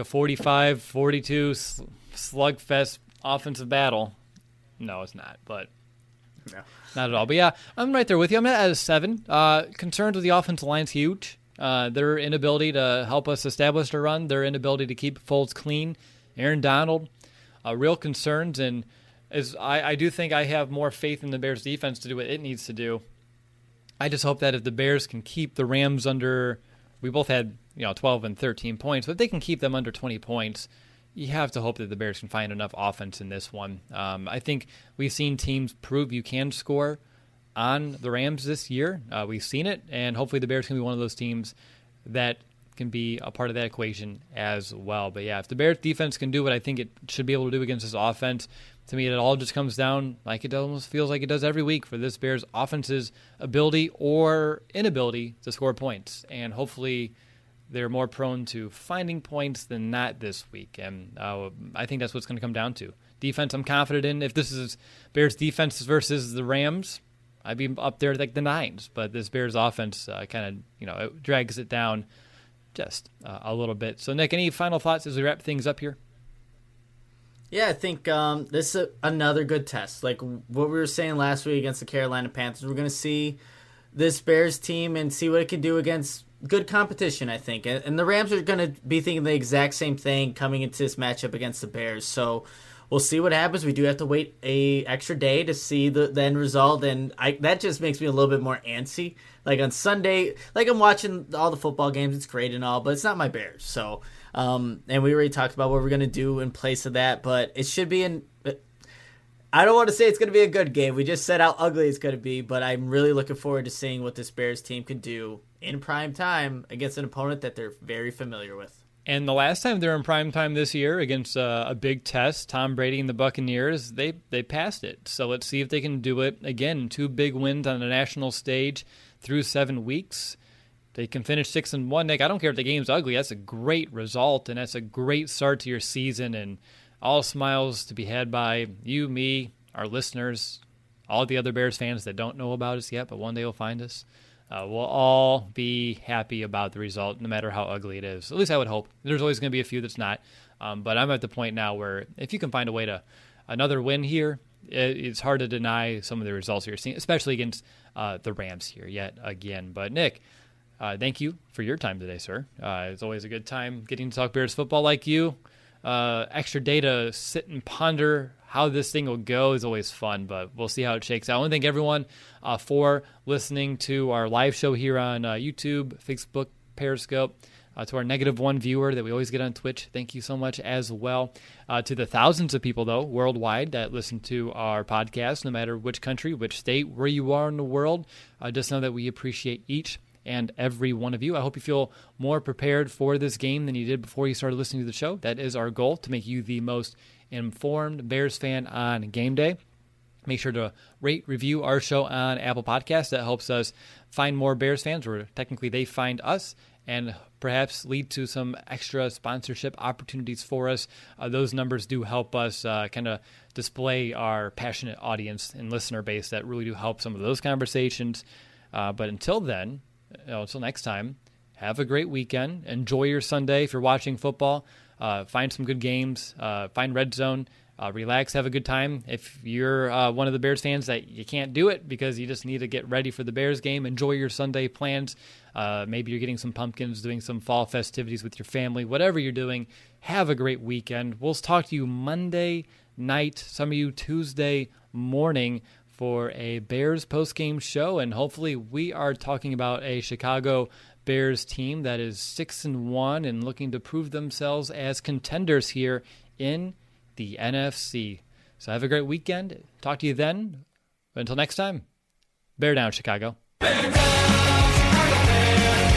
45-42 slugfest offensive battle. No, it's not, but no. Not at all. But, yeah, I'm right there with you. I'm at a 7. Concerns with the offensive line's huge. Their inability to help us establish a run, their inability to keep Foles clean. Aaron Donald, real concerns, and as I do think I have more faith in the Bears' defense to do what it needs to do. I just hope that if the Bears can keep the Rams under, we both had 12 and 13 points, but if they can keep them under 20 points, you have to hope that the Bears can find enough offense in this one. I think we've seen teams prove you can score on the Rams this year. We've seen it, and hopefully the Bears can be one of those teams that can be a part of that equation as well. But yeah, if the Bears defense can do what I think it should be able to do against this offense, to me it all just comes down like it almost feels like it does every week for this Bears offense's ability or inability to score points. And hopefully they're more prone to finding points than not this week. And I think that's what's going to come down to. Defense I'm confident in. If this is Bears defense versus the Rams, I'd be up there like the 9s. But this Bears offense kind of, it drags it down just a little bit. So, Nick, any final thoughts as we wrap things up here? Yeah, I think this is another good test. Like what we were saying last week against the Carolina Panthers, we're going to see this Bears team and see what it can do against good competition, I think. And the Rams are going to be thinking the exact same thing coming into this matchup against the Bears. So we'll see what happens. We do have to wait a extra day to see the end result, and that just makes me a little bit more antsy. Like on Sunday, like I'm watching all the football games, it's great and all, but it's not my Bears. So, and we already talked about what we're going to do in place of that, but it should be I don't want to say it's going to be a good game. We just said how ugly it's going to be, but I'm really looking forward to seeing what this Bears team can do in prime time against an opponent that they're very familiar with. And the last time they were in prime time this year against a big test, Tom Brady and the Buccaneers, they passed it. So let's see if they can do it again. 2 big wins on a national stage through 7 weeks. They can finish 6-1. Nick, I don't care if the game's ugly. That's a great result, and that's a great start to your season. And all smiles to be had by you, me, our listeners, all the other Bears fans that don't know about us yet, but one day will find us. We'll all be happy about the result, no matter how ugly it is. At least I would hope. There's always going to be a few that's not. But I'm at the point now where if you can find a way to another win here, it's hard to deny some of the results you're seeing, especially against the Rams here yet again. But Nick, thank you for your time today, sir. It's always a good time getting to talk Bears football like you. Extra day to sit and ponder how this thing will go is always fun, but we'll see how it shakes out. I want to thank everyone for listening to our live show here on YouTube, Facebook, Periscope, to our -1 viewer that we always get on Twitch. Thank you so much as well. To the thousands of people, though, worldwide that listen to our podcast, no matter which country, which state, where you are in the world, just know that we appreciate each and every one of you. I hope you feel more prepared for this game than you did before you started listening to the show. That is our goal, to make you the most informed Bears fan on game day. Make sure to rate, review our show on Apple Podcasts. That helps us find more Bears fans, or technically they find us, and perhaps lead to some extra sponsorship opportunities for us. Those numbers do help us kind of display our passionate audience and listener base that really do help some of those conversations. But until then, until next time, have a great weekend. Enjoy your Sunday. If you're watching football, find some good games. Find Red Zone. Relax, have a good time. If you're one of the Bears fans that you can't do it because you just need to get ready for the Bears game, enjoy your Sunday plans. Maybe you're getting some pumpkins, doing some fall festivities with your family. Whatever you're doing, have a great weekend. We'll talk to you Monday night, some of you Tuesday morning, for a Bears post-game show, and hopefully we are talking about a Chicago Bears team that is 6-1 and looking to prove themselves as contenders here in the NFC. So have a great weekend. Talk to you then. But until next time, bear down, Chicago. Bear down, Chicago Bears.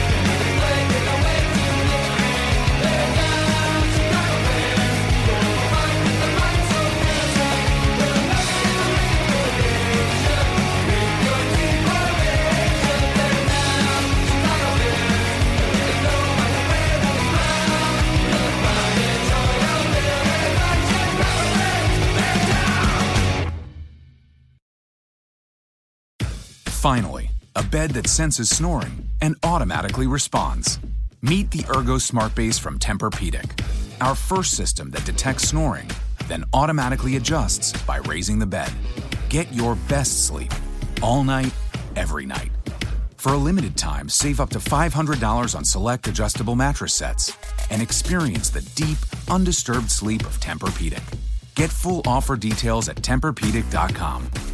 Finally, a bed that senses snoring and automatically responds. Meet the Ergo Smart Base from Tempur-Pedic, our first system that detects snoring, then automatically adjusts by raising the bed. Get your best sleep all night, every night. For a limited time, save up to $500 on select adjustable mattress sets and experience the deep, undisturbed sleep of Tempur-Pedic. Get full offer details at TempurPedic.com.